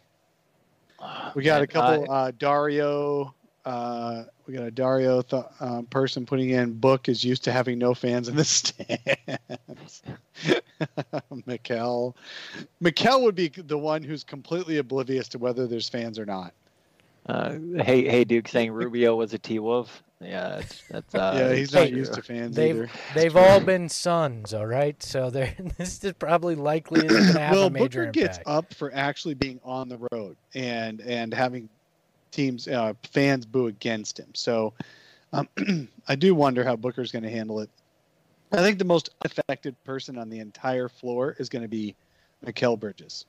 We got a And, couple. uh, Uh, Dario. Uh, we got a Dario th- um, person putting in. Book is used to having no fans in the stands. Mikel. Mikel would be the one who's completely oblivious to whether there's fans or not. Uh, hey, hey, Duke saying Rubio was a T-Wolf. Yeah, that's, that's uh, yeah, he's not used to fans they've, either. They've all been Suns, all right? So they're, this is probably likely isn't going to have well, a major Booker impact. gets up for actually being on the road and and having teams, uh, fans boo against him. So um, I do wonder how Booker's going to handle it. I think the most affected person on the entire floor is going to be Mikal Bridges.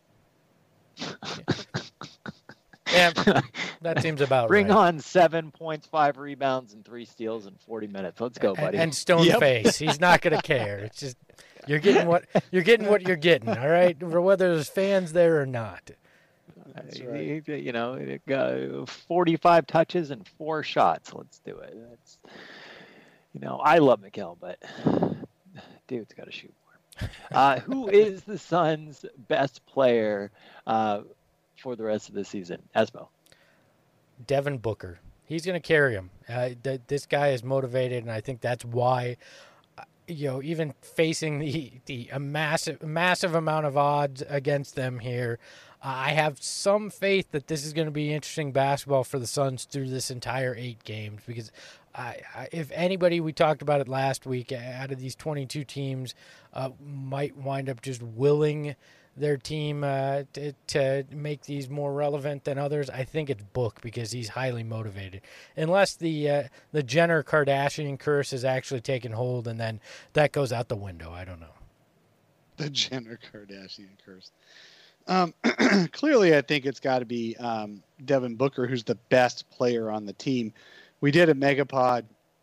Yeah, that seems about Bring right. on seven points, five rebounds, and three steals in forty minutes. Let's go, buddy. And, and stone Yep. face. He's not going to care. It's just you're getting what you're getting what you're getting. All right, for whether there's fans there or not. That's Uh, right. You know, it got forty-five touches and four shots. Let's do it. That's, you know, I love Mikal, but dude's got to shoot more. Uh, who is the Suns' best player uh, for the rest of the season? Espo. Devin Booker. He's going to carry him. Uh, th- this guy is motivated, and I think that's why, uh, you know, even facing the the a massive massive amount of odds against them here, uh, I have some faith that this is going to be interesting basketball for the Suns through this entire eight games. Because I, I, if anybody, we talked about it last week, out of these twenty-two teams, uh, might wind up just willing their team uh, to, to make these more relevant than others, I think it's Book because he's highly motivated. Unless the uh, the Jenner Kardashian curse has actually taken hold, and then that goes out the window. I don't know. The Jenner Kardashian curse. Um, clearly, I think it's got to be um, Devin Booker, who's the best player on the team. We did a Megapod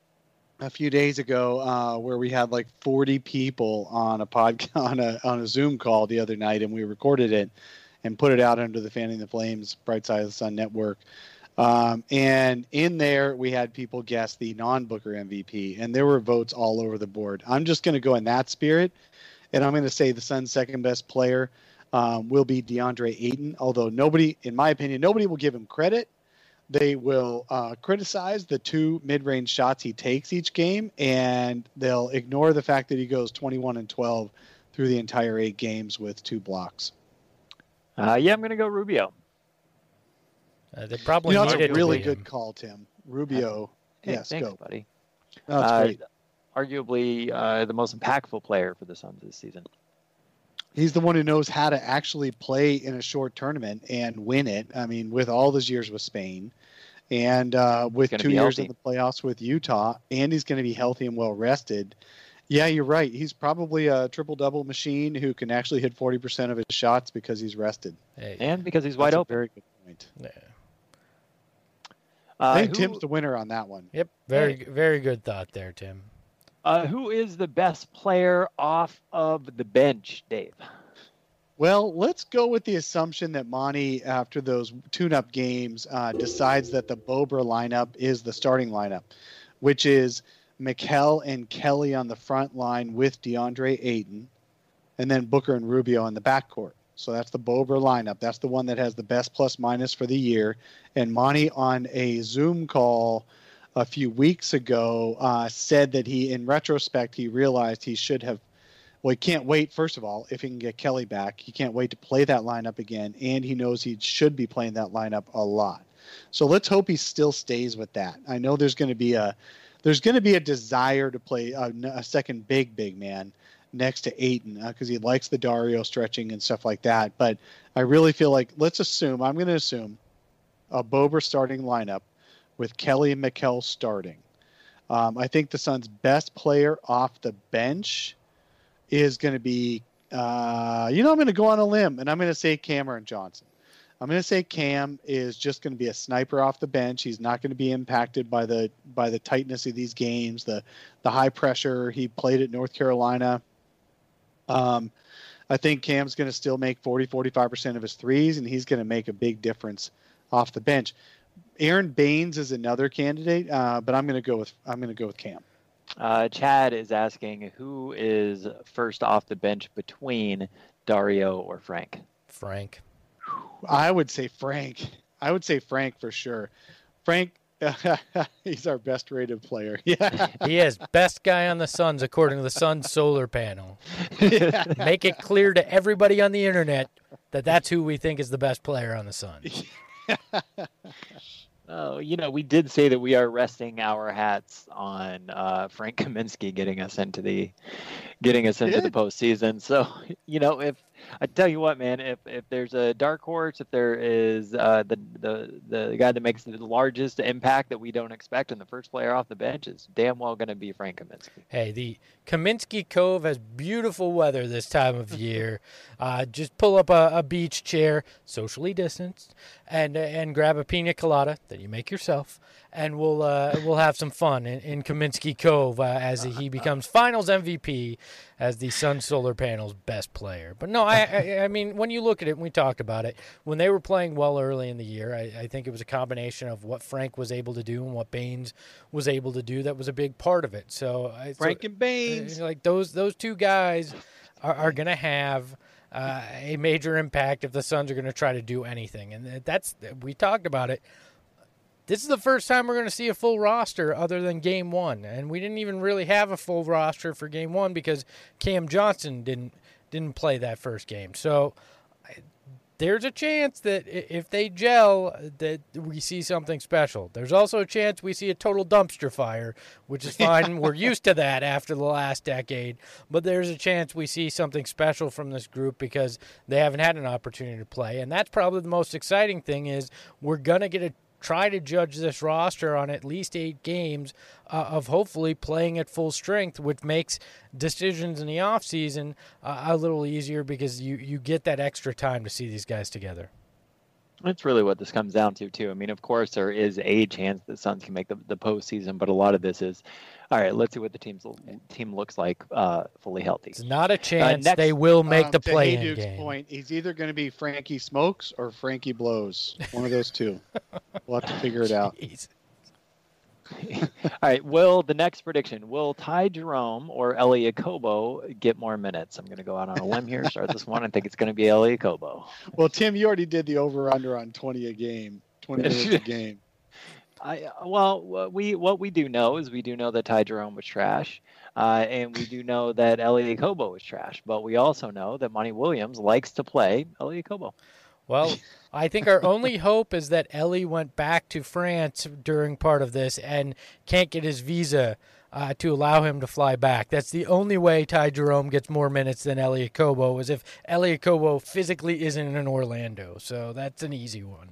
a few days ago uh, where we had like forty people on a pod on a on a Zoom call the other night, and we recorded it and put it out under the Fanning the Flames Bright Side of the Sun network. Um, and in there, we had people guess the non-Booker M V P, and there were votes all over the board. I'm just going to go in that spirit, and I'm going to say the Suns' second best player um, will be DeAndre Ayton, although nobody, in my opinion, nobody will give him credit. They will uh, criticize the two mid-range shots he takes each game, and they'll ignore the fact that he goes twenty-one and twelve through the entire eight games with two blocks. Uh, yeah, I'm going to go Rubio. Uh, they probably You know, that's needed a really to win. good call, Tim. Rubio. Hey, yes, thanks, go. buddy. No, that's Uh, great. Arguably uh, the most impactful player for the Suns this season. He's the one who knows how to actually play in a short tournament and win it. I mean, with all his years with Spain and uh, with gonna two be years healthy. in the playoffs with Utah, and he's going to be healthy and well rested. Yeah, you're right. He's probably a triple-double machine who can actually hit forty percent of his shots because he's rested. Hey, And because he's wide That's a open. very good point. yeah. Uh, I think who, Tim's the winner on that one. Yep, very very good thought there, Tim. uh, who is the best player off of the bench, Dave? Well, let's go with the assumption that Monty, after those tune-up games, uh, decides that the Bobra lineup is the starting lineup, which is Mikal and Kelly on the front line with DeAndre Ayton, and then Booker and Rubio in the backcourt. So that's the Bobra lineup. That's the one that has the best plus-minus for the year. And Monty, on a Zoom call a few weeks ago, uh, said that he, in retrospect, he realized he should have Well, he can't wait, first of all, if he can get Kelly back. He can't wait to play that lineup again, and he knows he should be playing that lineup a lot. So let's hope he still stays with that. I know there's going to be a there's going to be a desire to play a, a second big, big man next to Ayton because uh, he likes the Dario stretching and stuff like that. But I really feel like, let's assume, I'm going to assume, a Bober starting lineup with Kelly and Mikal starting. Um, I think the Suns' best player off the bench is going to be, uh, you know, I'm going to go on a limb, and I'm going to say Cameron Johnson. I'm going to say Cam is just going to be a sniper off the bench. He's not going to be impacted by the by the tightness of these games, the the high pressure. He played at North Carolina. Um, I think Cam's going to still make forty, forty-five percent of his threes, and he's going to make a big difference off the bench. Aaron Baines is another candidate, uh, but I'm going to go with I'm going to go with Cam. Uh, Chad is asking who is first off the bench between Dario or Frank. Frank. I would say Frank. I would say Frank for sure. Frank, He's our best rated player. Yeah. He is best guy on the Suns according to the Suns solar panel. Yeah. Make it clear to everybody on the internet that that's who we think is the best player on the Suns. Oh, you know, we did say that we are resting our hats on uh, Frank Kaminsky getting us into the getting us into Yeah. the postseason. So, you know, if I tell you what, man, if if there's a dark horse, if there is uh, the the the guy that makes the largest impact that we don't expect, and the first player off the bench is damn well going to be Frank Kaminsky. Hey, the Kaminsky Cove has beautiful weather this time of year. Uh, just pull up a, a beach chair, socially distanced, and and grab a pina colada that you make yourself, and we'll uh, we'll have some fun in, in Kaminsky Cove uh, as he becomes Finals M V P as the Sun Solar Panel's best player. But no, I, I I mean, when you look at it, and we talked about it, when they were playing well early in the year, I, I think it was a combination of what Frank was able to do and what Baines was able to do that was a big part of it. So I- Frank so, and Baines. uh, like those those two guys are, are going to have uh, a major impact if the Suns are going to try to do anything. And that's we talked about it. This is the first time we're going to see a full roster other than game one. And we didn't even really have a full roster for game one because Cam Johnson didn't didn't play that first game. So I- there's a chance that i- if they gel, that we see something special. There's also a chance we see a total dumpster fire, which is fine. We're used to that after the last decade. But there's a chance we see something special from this group because they haven't had an opportunity to play. And that's probably the most exciting thing is we're going to get a try to judge this roster on at least eight games uh, of hopefully playing at full strength, which makes decisions in the offseason uh, a little easier because you, you get that extra time to see these guys together. That's really what this comes down to, too. I mean, of course, there is a chance the Suns can make the, the postseason, but a lot of this is, all right, let's see what the team's team looks like uh, fully healthy. It's not a chance next- they will make Um, the to play-in Hayduke's game. point, he's either going to be Frankie Smokes or Frankie Blows. One of those two. We'll have to figure it out. Jeez. All right, will the next prediction, will Ty Jerome or Elie Okobo get more minutes? I'm going to go out on a limb here, start this one. I think it's going to be Elie Okobo. Well, Tim, you already did the over-under on twenty a game, twenty minutes a game. I well, what we what we do know is we do know that Ty Jerome was trash, uh, and we do know that Elie Okobo was trash. But we also know that Monty Williams likes to play Elie Okobo. Well, I think our only hope is that Ellie went back to France during part of this and can't get his visa uh, to allow him to fly back. That's the only way Ty Jerome gets more minutes than Elie Okobo is if Elie Okobo physically isn't in Orlando. So that's an easy one.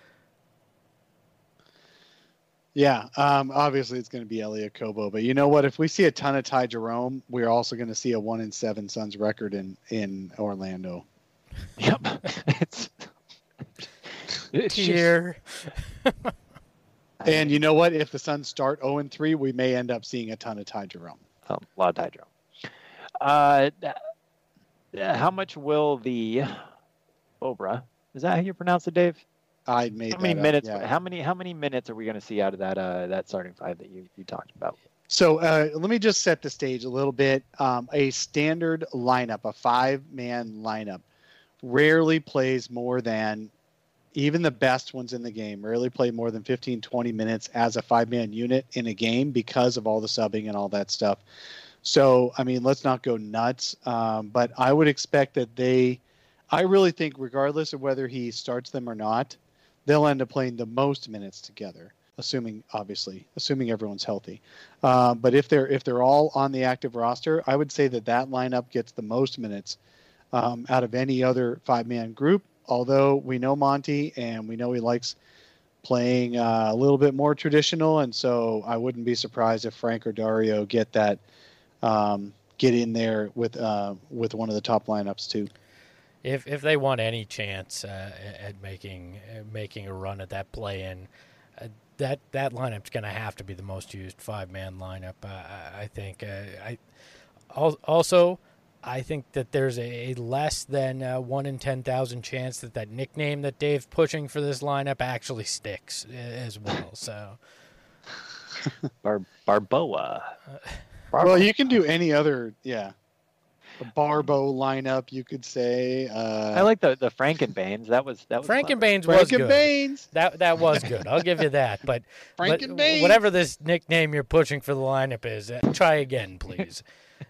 Yeah, um, obviously it's going to be Elie Okobo, but you know what? If we see a ton of Ty Jerome, we're also going to see a one in seven Suns record in in Orlando. Yep, it's, it's just- Here. And you know what? If the Suns start zero and three, we may end up seeing a ton of Ty Jerome. Oh, a lot of Ty Jerome. Uh, th- how much will the Bobra? Is that how you pronounce it, Dave? I made How many that up, minutes? yeah. How many? How many minutes are we going to see out of that? Uh, that starting five that you, you talked about. So uh, let me just set the stage a little bit. Um, a standard lineup, a five-man lineup, rarely plays more than, even the best ones in the game, rarely play more than fifteen, twenty minutes as a five-man unit in a game because of all the subbing and all that stuff. So, I mean, let's not go nuts. Um, but I would expect that they, I really think regardless of whether he starts them or not, they'll end up playing the most minutes together, assuming, obviously, assuming everyone's healthy. Uh, but if they're if they're all on the active roster, I would say that that lineup gets the most minutes um, out of any other five-man group. Although we know Monty and we know he likes playing uh, a little bit more traditional, and so I wouldn't be surprised if Frank or Dario get that um, get in there with uh, with one of the top lineups too. If if they want any chance uh, at making uh, making a run at that play-in, uh, that that lineup's going to have to be the most used five-man lineup. Uh, I, I think. Uh, I al- also. I think that there's a less than uh, one in ten thousand chance that that nickname that Dave's pushing for this lineup actually sticks uh, as well. So, Bar- Barboa. Well, you can do any other, yeah. a Barbo lineup, you could say. Uh, I like the the Frankenbanes. That was that was Frankenbanes was good. Frankenbanes. That that was good. I'll give you that. But, but Frankenbanes. whatever this nickname you're pushing for the lineup is, uh, try again, please.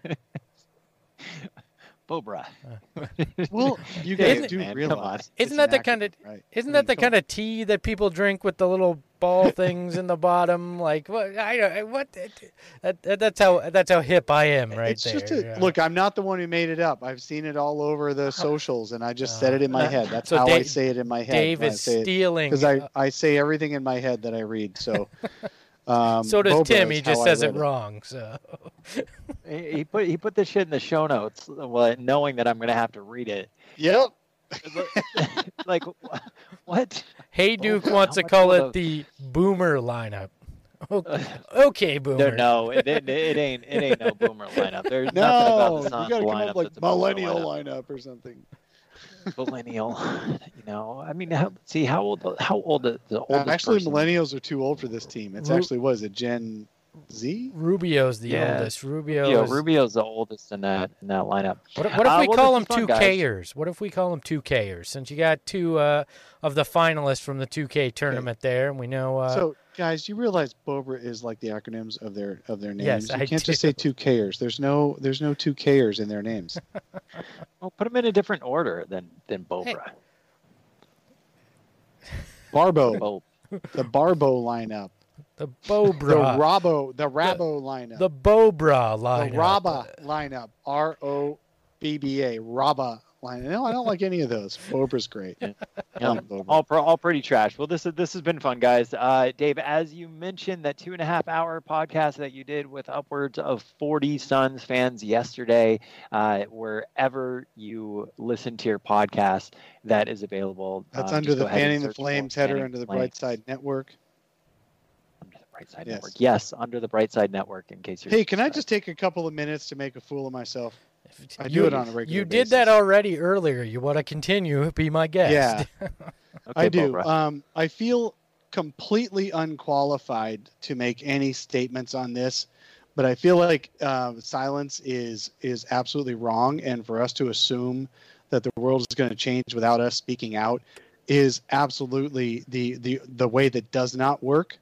Bobra. Well, you guys Isn't- do man, come realize. on. it's Isn't an that the acronym, kind of right? isn't I that mean, the come kind of tea that people drink with the little ball things in the bottom? Like what? I don't. What? That, that, that's how that's how hip I am, right it's there. just a, yeah. look. I'm not the one who made it up. I've seen it all over the socials, and I just said it in my Uh, head. That's so how I Dave- say it in my head. Dave is stealing. because I, I say everything in my head that I read. So, um, so does Boba Tim. is He just how I says it read wrong. So He he put he put this shit in the show notes, well, knowing that I'm gonna have to read it. Yep. Like wh- what? Hey Oh, Duke God, wants how to much call will it the- the Boomer lineup. Okay, okay No, Boomer. no, it, it, it ain't it ain't no Boomer lineup. There's nothing No, about the you Suns got to come lineup up like that's a Boomer millennial lineup. lineup or something. Millennial. You know, I mean, how, see how old how old the, the Uh, oldest actually, person- millennials are too old for this team. It's Ru- actually what is it, Gen Z? Rubio's the Yeah. oldest. Rubio. Rubio, is, Rubio's the oldest in that in that lineup. What, what if Uh, we well, call this them is fun, two guys. Kers? What if we call them two Kers? Since you got two uh, of the finalists from the two K tournament there, and we know. Uh, So, guys, you realize Bobra is like the acronyms of their of their names. Yes, you I can't just do. say two Kers. There's no there's no two Kers in their names. Well, put them in a different order than than Bobra. Barbo, Bo- the Barbo lineup, the the Bobra. Rabo, the Rabo lineup, The Bobra the lineup. Raba lineup, R O B B A, Raba lineup. No, I don't like any of those. Bobra's great. I Yeah, like Bobra. all pro, all pretty trash. Well, this is this has been fun, guys. Uh, Dave, as you mentioned, that two and a half hour podcast that you did with upwards of forty Suns fans yesterday, uh, wherever you listen to your podcast, that is available. That's Um, under just the go ahead and Fanning the search for Flames header Fanning under the Flames. Brightside Network. Under the Brightside Yes. Network. Yes, under the Brightside Network. In case you're. Hey, can I just take a couple of minutes to make a fool of myself? I do You- it on a regular You did that basis. already earlier. You want to continue? Be my guest. Yeah. Okay, I do. Bobra. Um, I feel completely unqualified to make any statements on this, but I feel like uh, silence is is absolutely wrong, and for us to assume that the world is going to change without us speaking out is absolutely the the the way that does not work.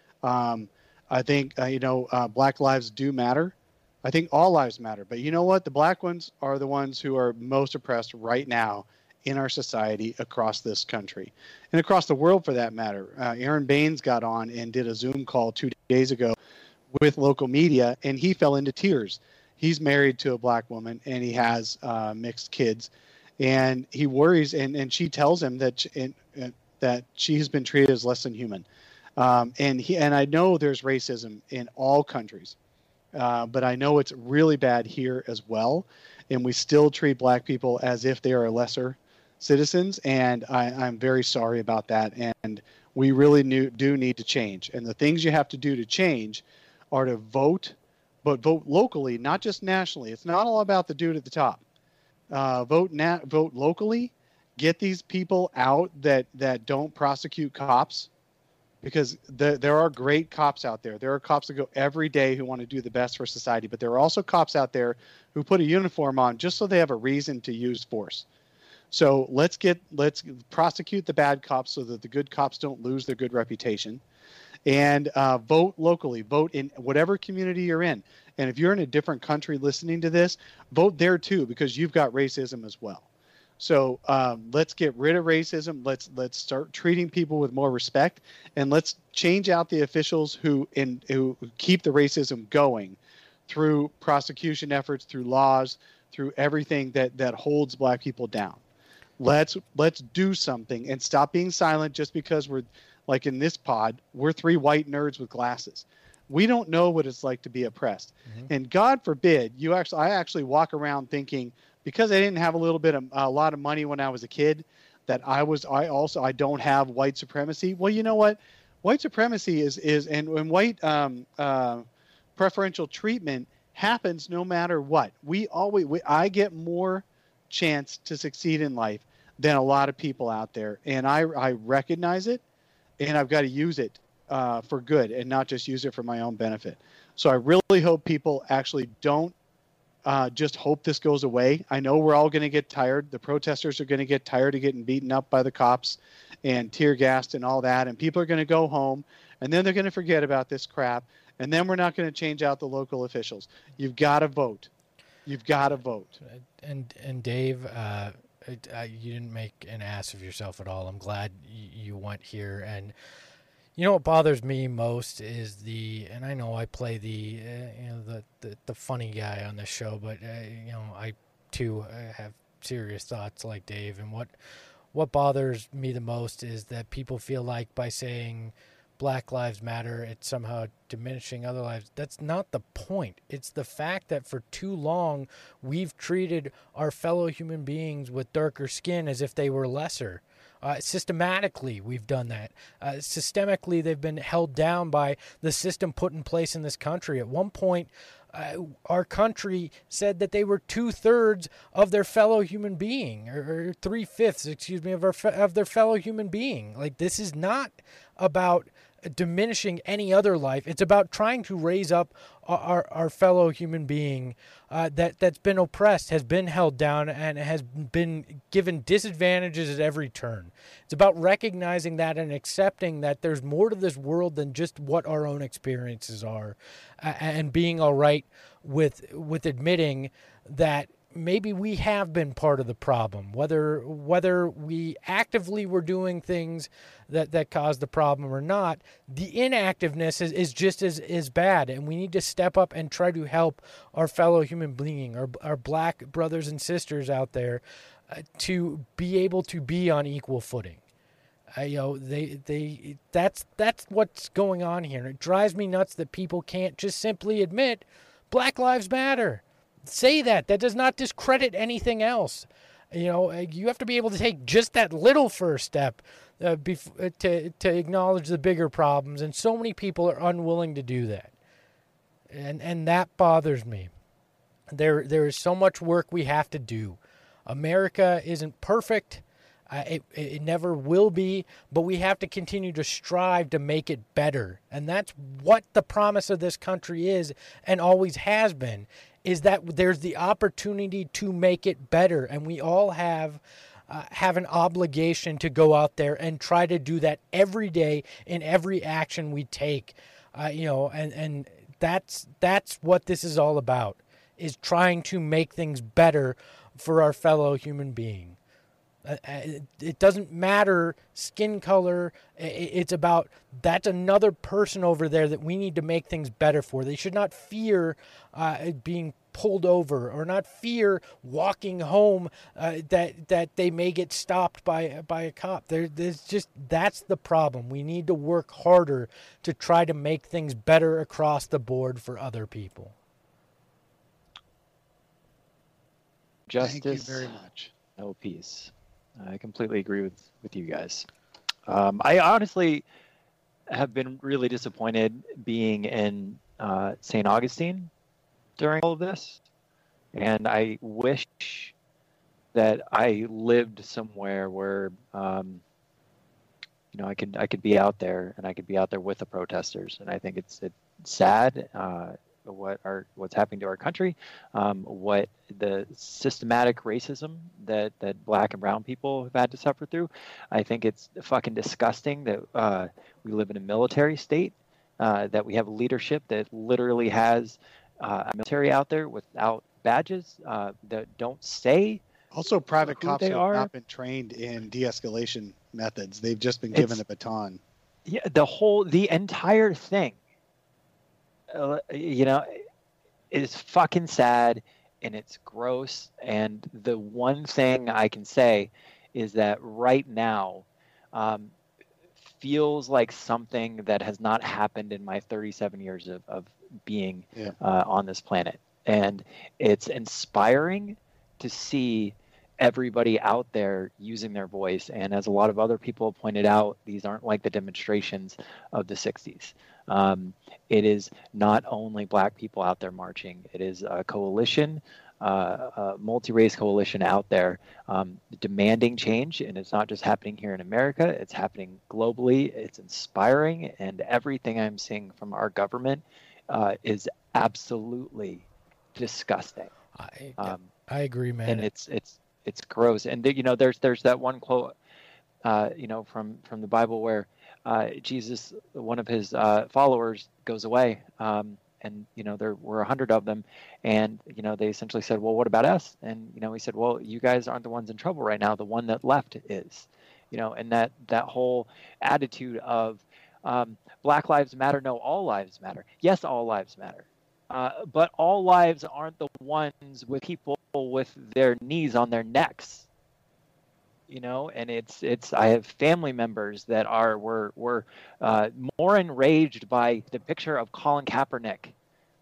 Um, I think uh, you know uh, Black lives do matter. I think all lives matter, but you know what? The black ones are the ones who are most oppressed right now in our society across this country and across the world for that matter. Uh, Aaron Baines got on and did a Zoom call two days ago with local media, and he fell into tears. He's married to a black woman, and he has uh, mixed kids, and he worries, and, and she tells him that she, and, and that she has been treated as less than human. Um, and he and I know there's racism in all countries. Uh, but I know it's really bad here as well, and we still treat black people as if they are lesser citizens, and I, I'm very sorry about that. And we really new, do need to change. And the things you have to do to change are to vote, but vote locally, not just nationally. It's not all about the dude at the top. Uh, vote na- vote locally. Get these people out that that don't prosecute cops. Because the, there are great cops out there. There are cops that go every day who want to do the best for society. But there are also cops out there who put a uniform on just so they have a reason to use force. So let's get let's prosecute the bad cops so that the good cops don't lose their good reputation. And uh, vote locally. Vote in whatever community you're in. And if you're in a different country listening to this, vote there too, because you've got racism as well. So um, let's get rid of racism. Let's let's start treating people with more respect, and let's change out the officials who in who keep the racism going through prosecution efforts, through laws, through everything that that holds black people down. Let's let's do something and stop being silent just because we're like in this pod, we're three white nerds with glasses. We don't know what it's like to be oppressed. Mm-hmm. And God forbid you actually I actually walk around thinking, because I didn't have a little bit of a lot of money when I was a kid, that I was I also I don't have white supremacy. Well, you know what? White supremacy is is and, and white um, uh, preferential treatment happens no matter what. We always we, I get more chance to succeed in life than a lot of people out there, and I I recognize it, and I've got to use it uh, for good and not just use it for my own benefit. So I really hope people actually don't uh, just hope this goes away. I know we're all going to get tired. The protesters are going to get tired of getting beaten up by the cops and tear gassed and all that. And people are going to go home, and then they're going to forget about this crap. And then we're not going to change out the local officials. You've got to vote. You've got to vote. And and Dave, uh, uh, you didn't make an ass of yourself at all. I'm glad you went here. And you know what bothers me most is the, and I know I play the, uh, you know, the, the the funny guy on this show, but uh, you know, I too uh, have serious thoughts like Dave. And what what bothers me the most is that people feel like by saying Black Lives Matter, it's somehow diminishing other lives. That's not the point. It's the fact that for too long we've treated our fellow human beings with darker skin as if they were lesser. Uh, systematically, we've done that. Uh, systemically, they've been held down by the system put in place in this country. At one point, uh, our country said that they were two-thirds of their fellow human being, or, or three-fifths, excuse me, of, our, of their fellow human being. Like, this is not about diminishing any other life. It's about trying to raise up our, our, our fellow human being uh, that, that's been oppressed, has been held down, and has been given disadvantages at every turn. It's about recognizing that and accepting that there's more to this world than just what our own experiences are, uh, and being all right with with admitting that maybe we have been part of the problem, whether whether we actively were doing things that, that caused the problem or not. The inactiveness is, is just as, as bad, and we need to step up and try to help our fellow human being, our, our black brothers and sisters out there, uh, to be able to be on equal footing. Uh, you know, they they that's that's what's going on here. And it drives me nuts that people can't just simply admit Black Lives Matter. Say that. That does not discredit anything else. You know, you have to be able to take just that little first step uh, bef- to to acknowledge the bigger problems, and so many people are unwilling to do that, and and that bothers me. There there is so much work we have to do. America isn't perfect. Uh, it it never will be, but we have to continue to strive to make it better, and that's what the promise of this country is, and always has been. Is that there's the opportunity to make it better, and we all have uh, have an obligation to go out there and try to do that every day in every action we take. Uh, you know, and, and that's that's what this is all about, is trying to make things better for our fellow human being. Uh, it doesn't matter skin color. It's about that's another person over there that we need to make things better for. They should not fear uh, being pulled over, or not fear walking home uh, that that they may get stopped by by a cop. There, there's just that's the problem. We need to work harder to try to make things better across the board for other people. Justice. Thank you very much. No peace. I completely agree with, with you guys. Um, I honestly have been really disappointed being in uh, Saint Augustine during all of this. And I wish that I lived somewhere where, um, you know, I could I could be out there, and I could be out there with the protesters. And I think it's, it's sad uh, what our what's happening to our country, um, what the systematic racism that, that black and brown people have had to suffer through. I think it's fucking disgusting that uh, we live in a military state, uh, that we have leadership that literally has uh, a military out there without badges, uh, that don't say. Also, private who cops they have are. not been trained in de-escalation methods. They've just been given It's- a baton. Yeah, the whole, the entire thing, uh, you know, is fucking sad, and it's gross. And the one thing I can say is that right now um, feels like something that has not happened in my thirty-seven years of, of being Yeah. uh, on this planet. And it's inspiring to see everybody out there using their voice. And as a lot of other people pointed out, these aren't like the demonstrations of the sixties. Um, it is not only black people out there marching. It is a coalition, uh, a multi-race coalition out there um, demanding change. And it's not just happening here in America. It's happening globally. It's inspiring. And everything I'm seeing from our government uh, is absolutely disgusting. I, Um, I agree, man. and it's it's it's gross. And you know, there's there's that one quote, uh, you know, from from the Bible where uh, Jesus, one of his uh, followers, goes away, um, and you know there were a hundred of them, and you know they essentially said, well, what about us? And you know he said, well, you guys aren't the ones in trouble right now. The one that left is, you know, and that that whole attitude of um, Black Lives Matter, no, all lives matter. Yes, all lives matter. Uh, but all lives aren't the ones with people with their knees on their necks, you know. And it's it's. I have family members that are were were uh, more enraged by the picture of Colin Kaepernick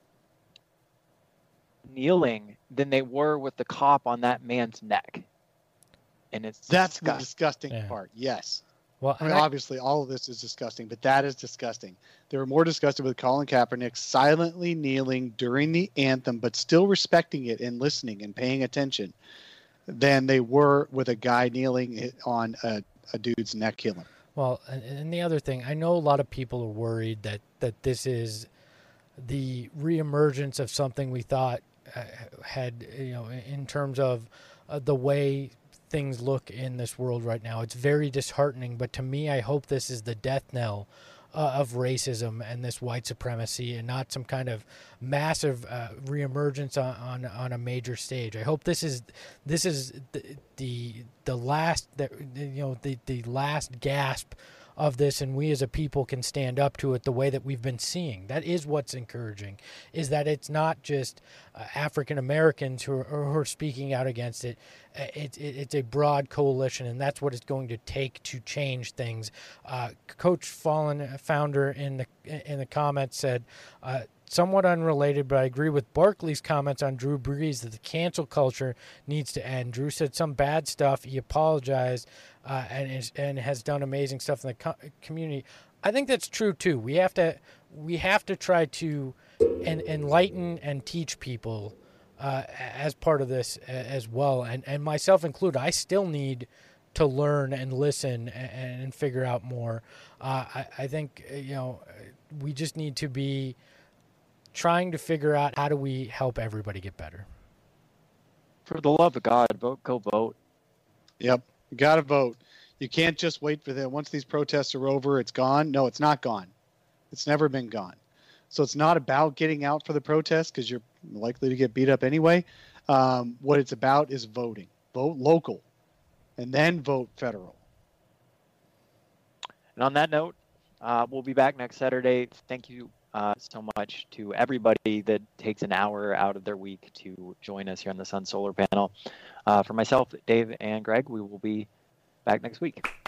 kneeling than they were with the cop on that man's neck. And it's That's the disgusting. disgusting Yeah. part. Yes. well, I mean, and I- obviously, all of this is disgusting, but that is disgusting. They were more disgusted with Colin Kaepernick silently kneeling during the anthem, but still respecting it and listening and paying attention, than they were with a guy kneeling on a, a dude's neck killing. Well, and, and the other thing, I know a lot of people are worried that, that this is the reemergence of something we thought uh, had, you know, in terms of uh, the way things look in this world right now. It's very disheartening, but to me, I hope this is the death knell uh, of racism and this white supremacy, and not some kind of massive uh, reemergence on, on on a major stage. I hope this is this is the the, the last that you know the the last gasp of this, and we as a people can stand up to it the way that we've been seeing. That is what's encouraging, is that it's not just uh, African Americans who are, who are speaking out against it. Uh, It, it. It's a broad coalition, and that's what it's going to take to change things. Uh, Coach Fallen, founder in the in the comments, said, uh, somewhat unrelated, but I agree with Barkley's comments on Drew Brees that the cancel culture needs to end. Drew said some bad stuff. He apologized uh, and is, and has done amazing stuff in the co- community. I think that's true too. We have to we have to try to en- enlighten and teach people uh, as part of this a- as well, and and myself included. I still need to learn and listen and, and figure out more. Uh, I, I think you know we just need to be trying to figure out how do we help everybody get better. For the love of God, vote, go vote. Yep. You got to vote. You can't just wait for them. Once these protests are over, it's gone. No, it's not gone. It's never been gone. So it's not about getting out for the protest because you're likely to get beat up anyway. Um, what it's about is voting. Vote local and then vote federal. And on that note, uh, we'll be back next Saturday. Thank you uh, so much to everybody that takes an hour out of their week to join us here on the Sun Solar Panel. Uh, for myself, Dave, and Greg, we will be back next week.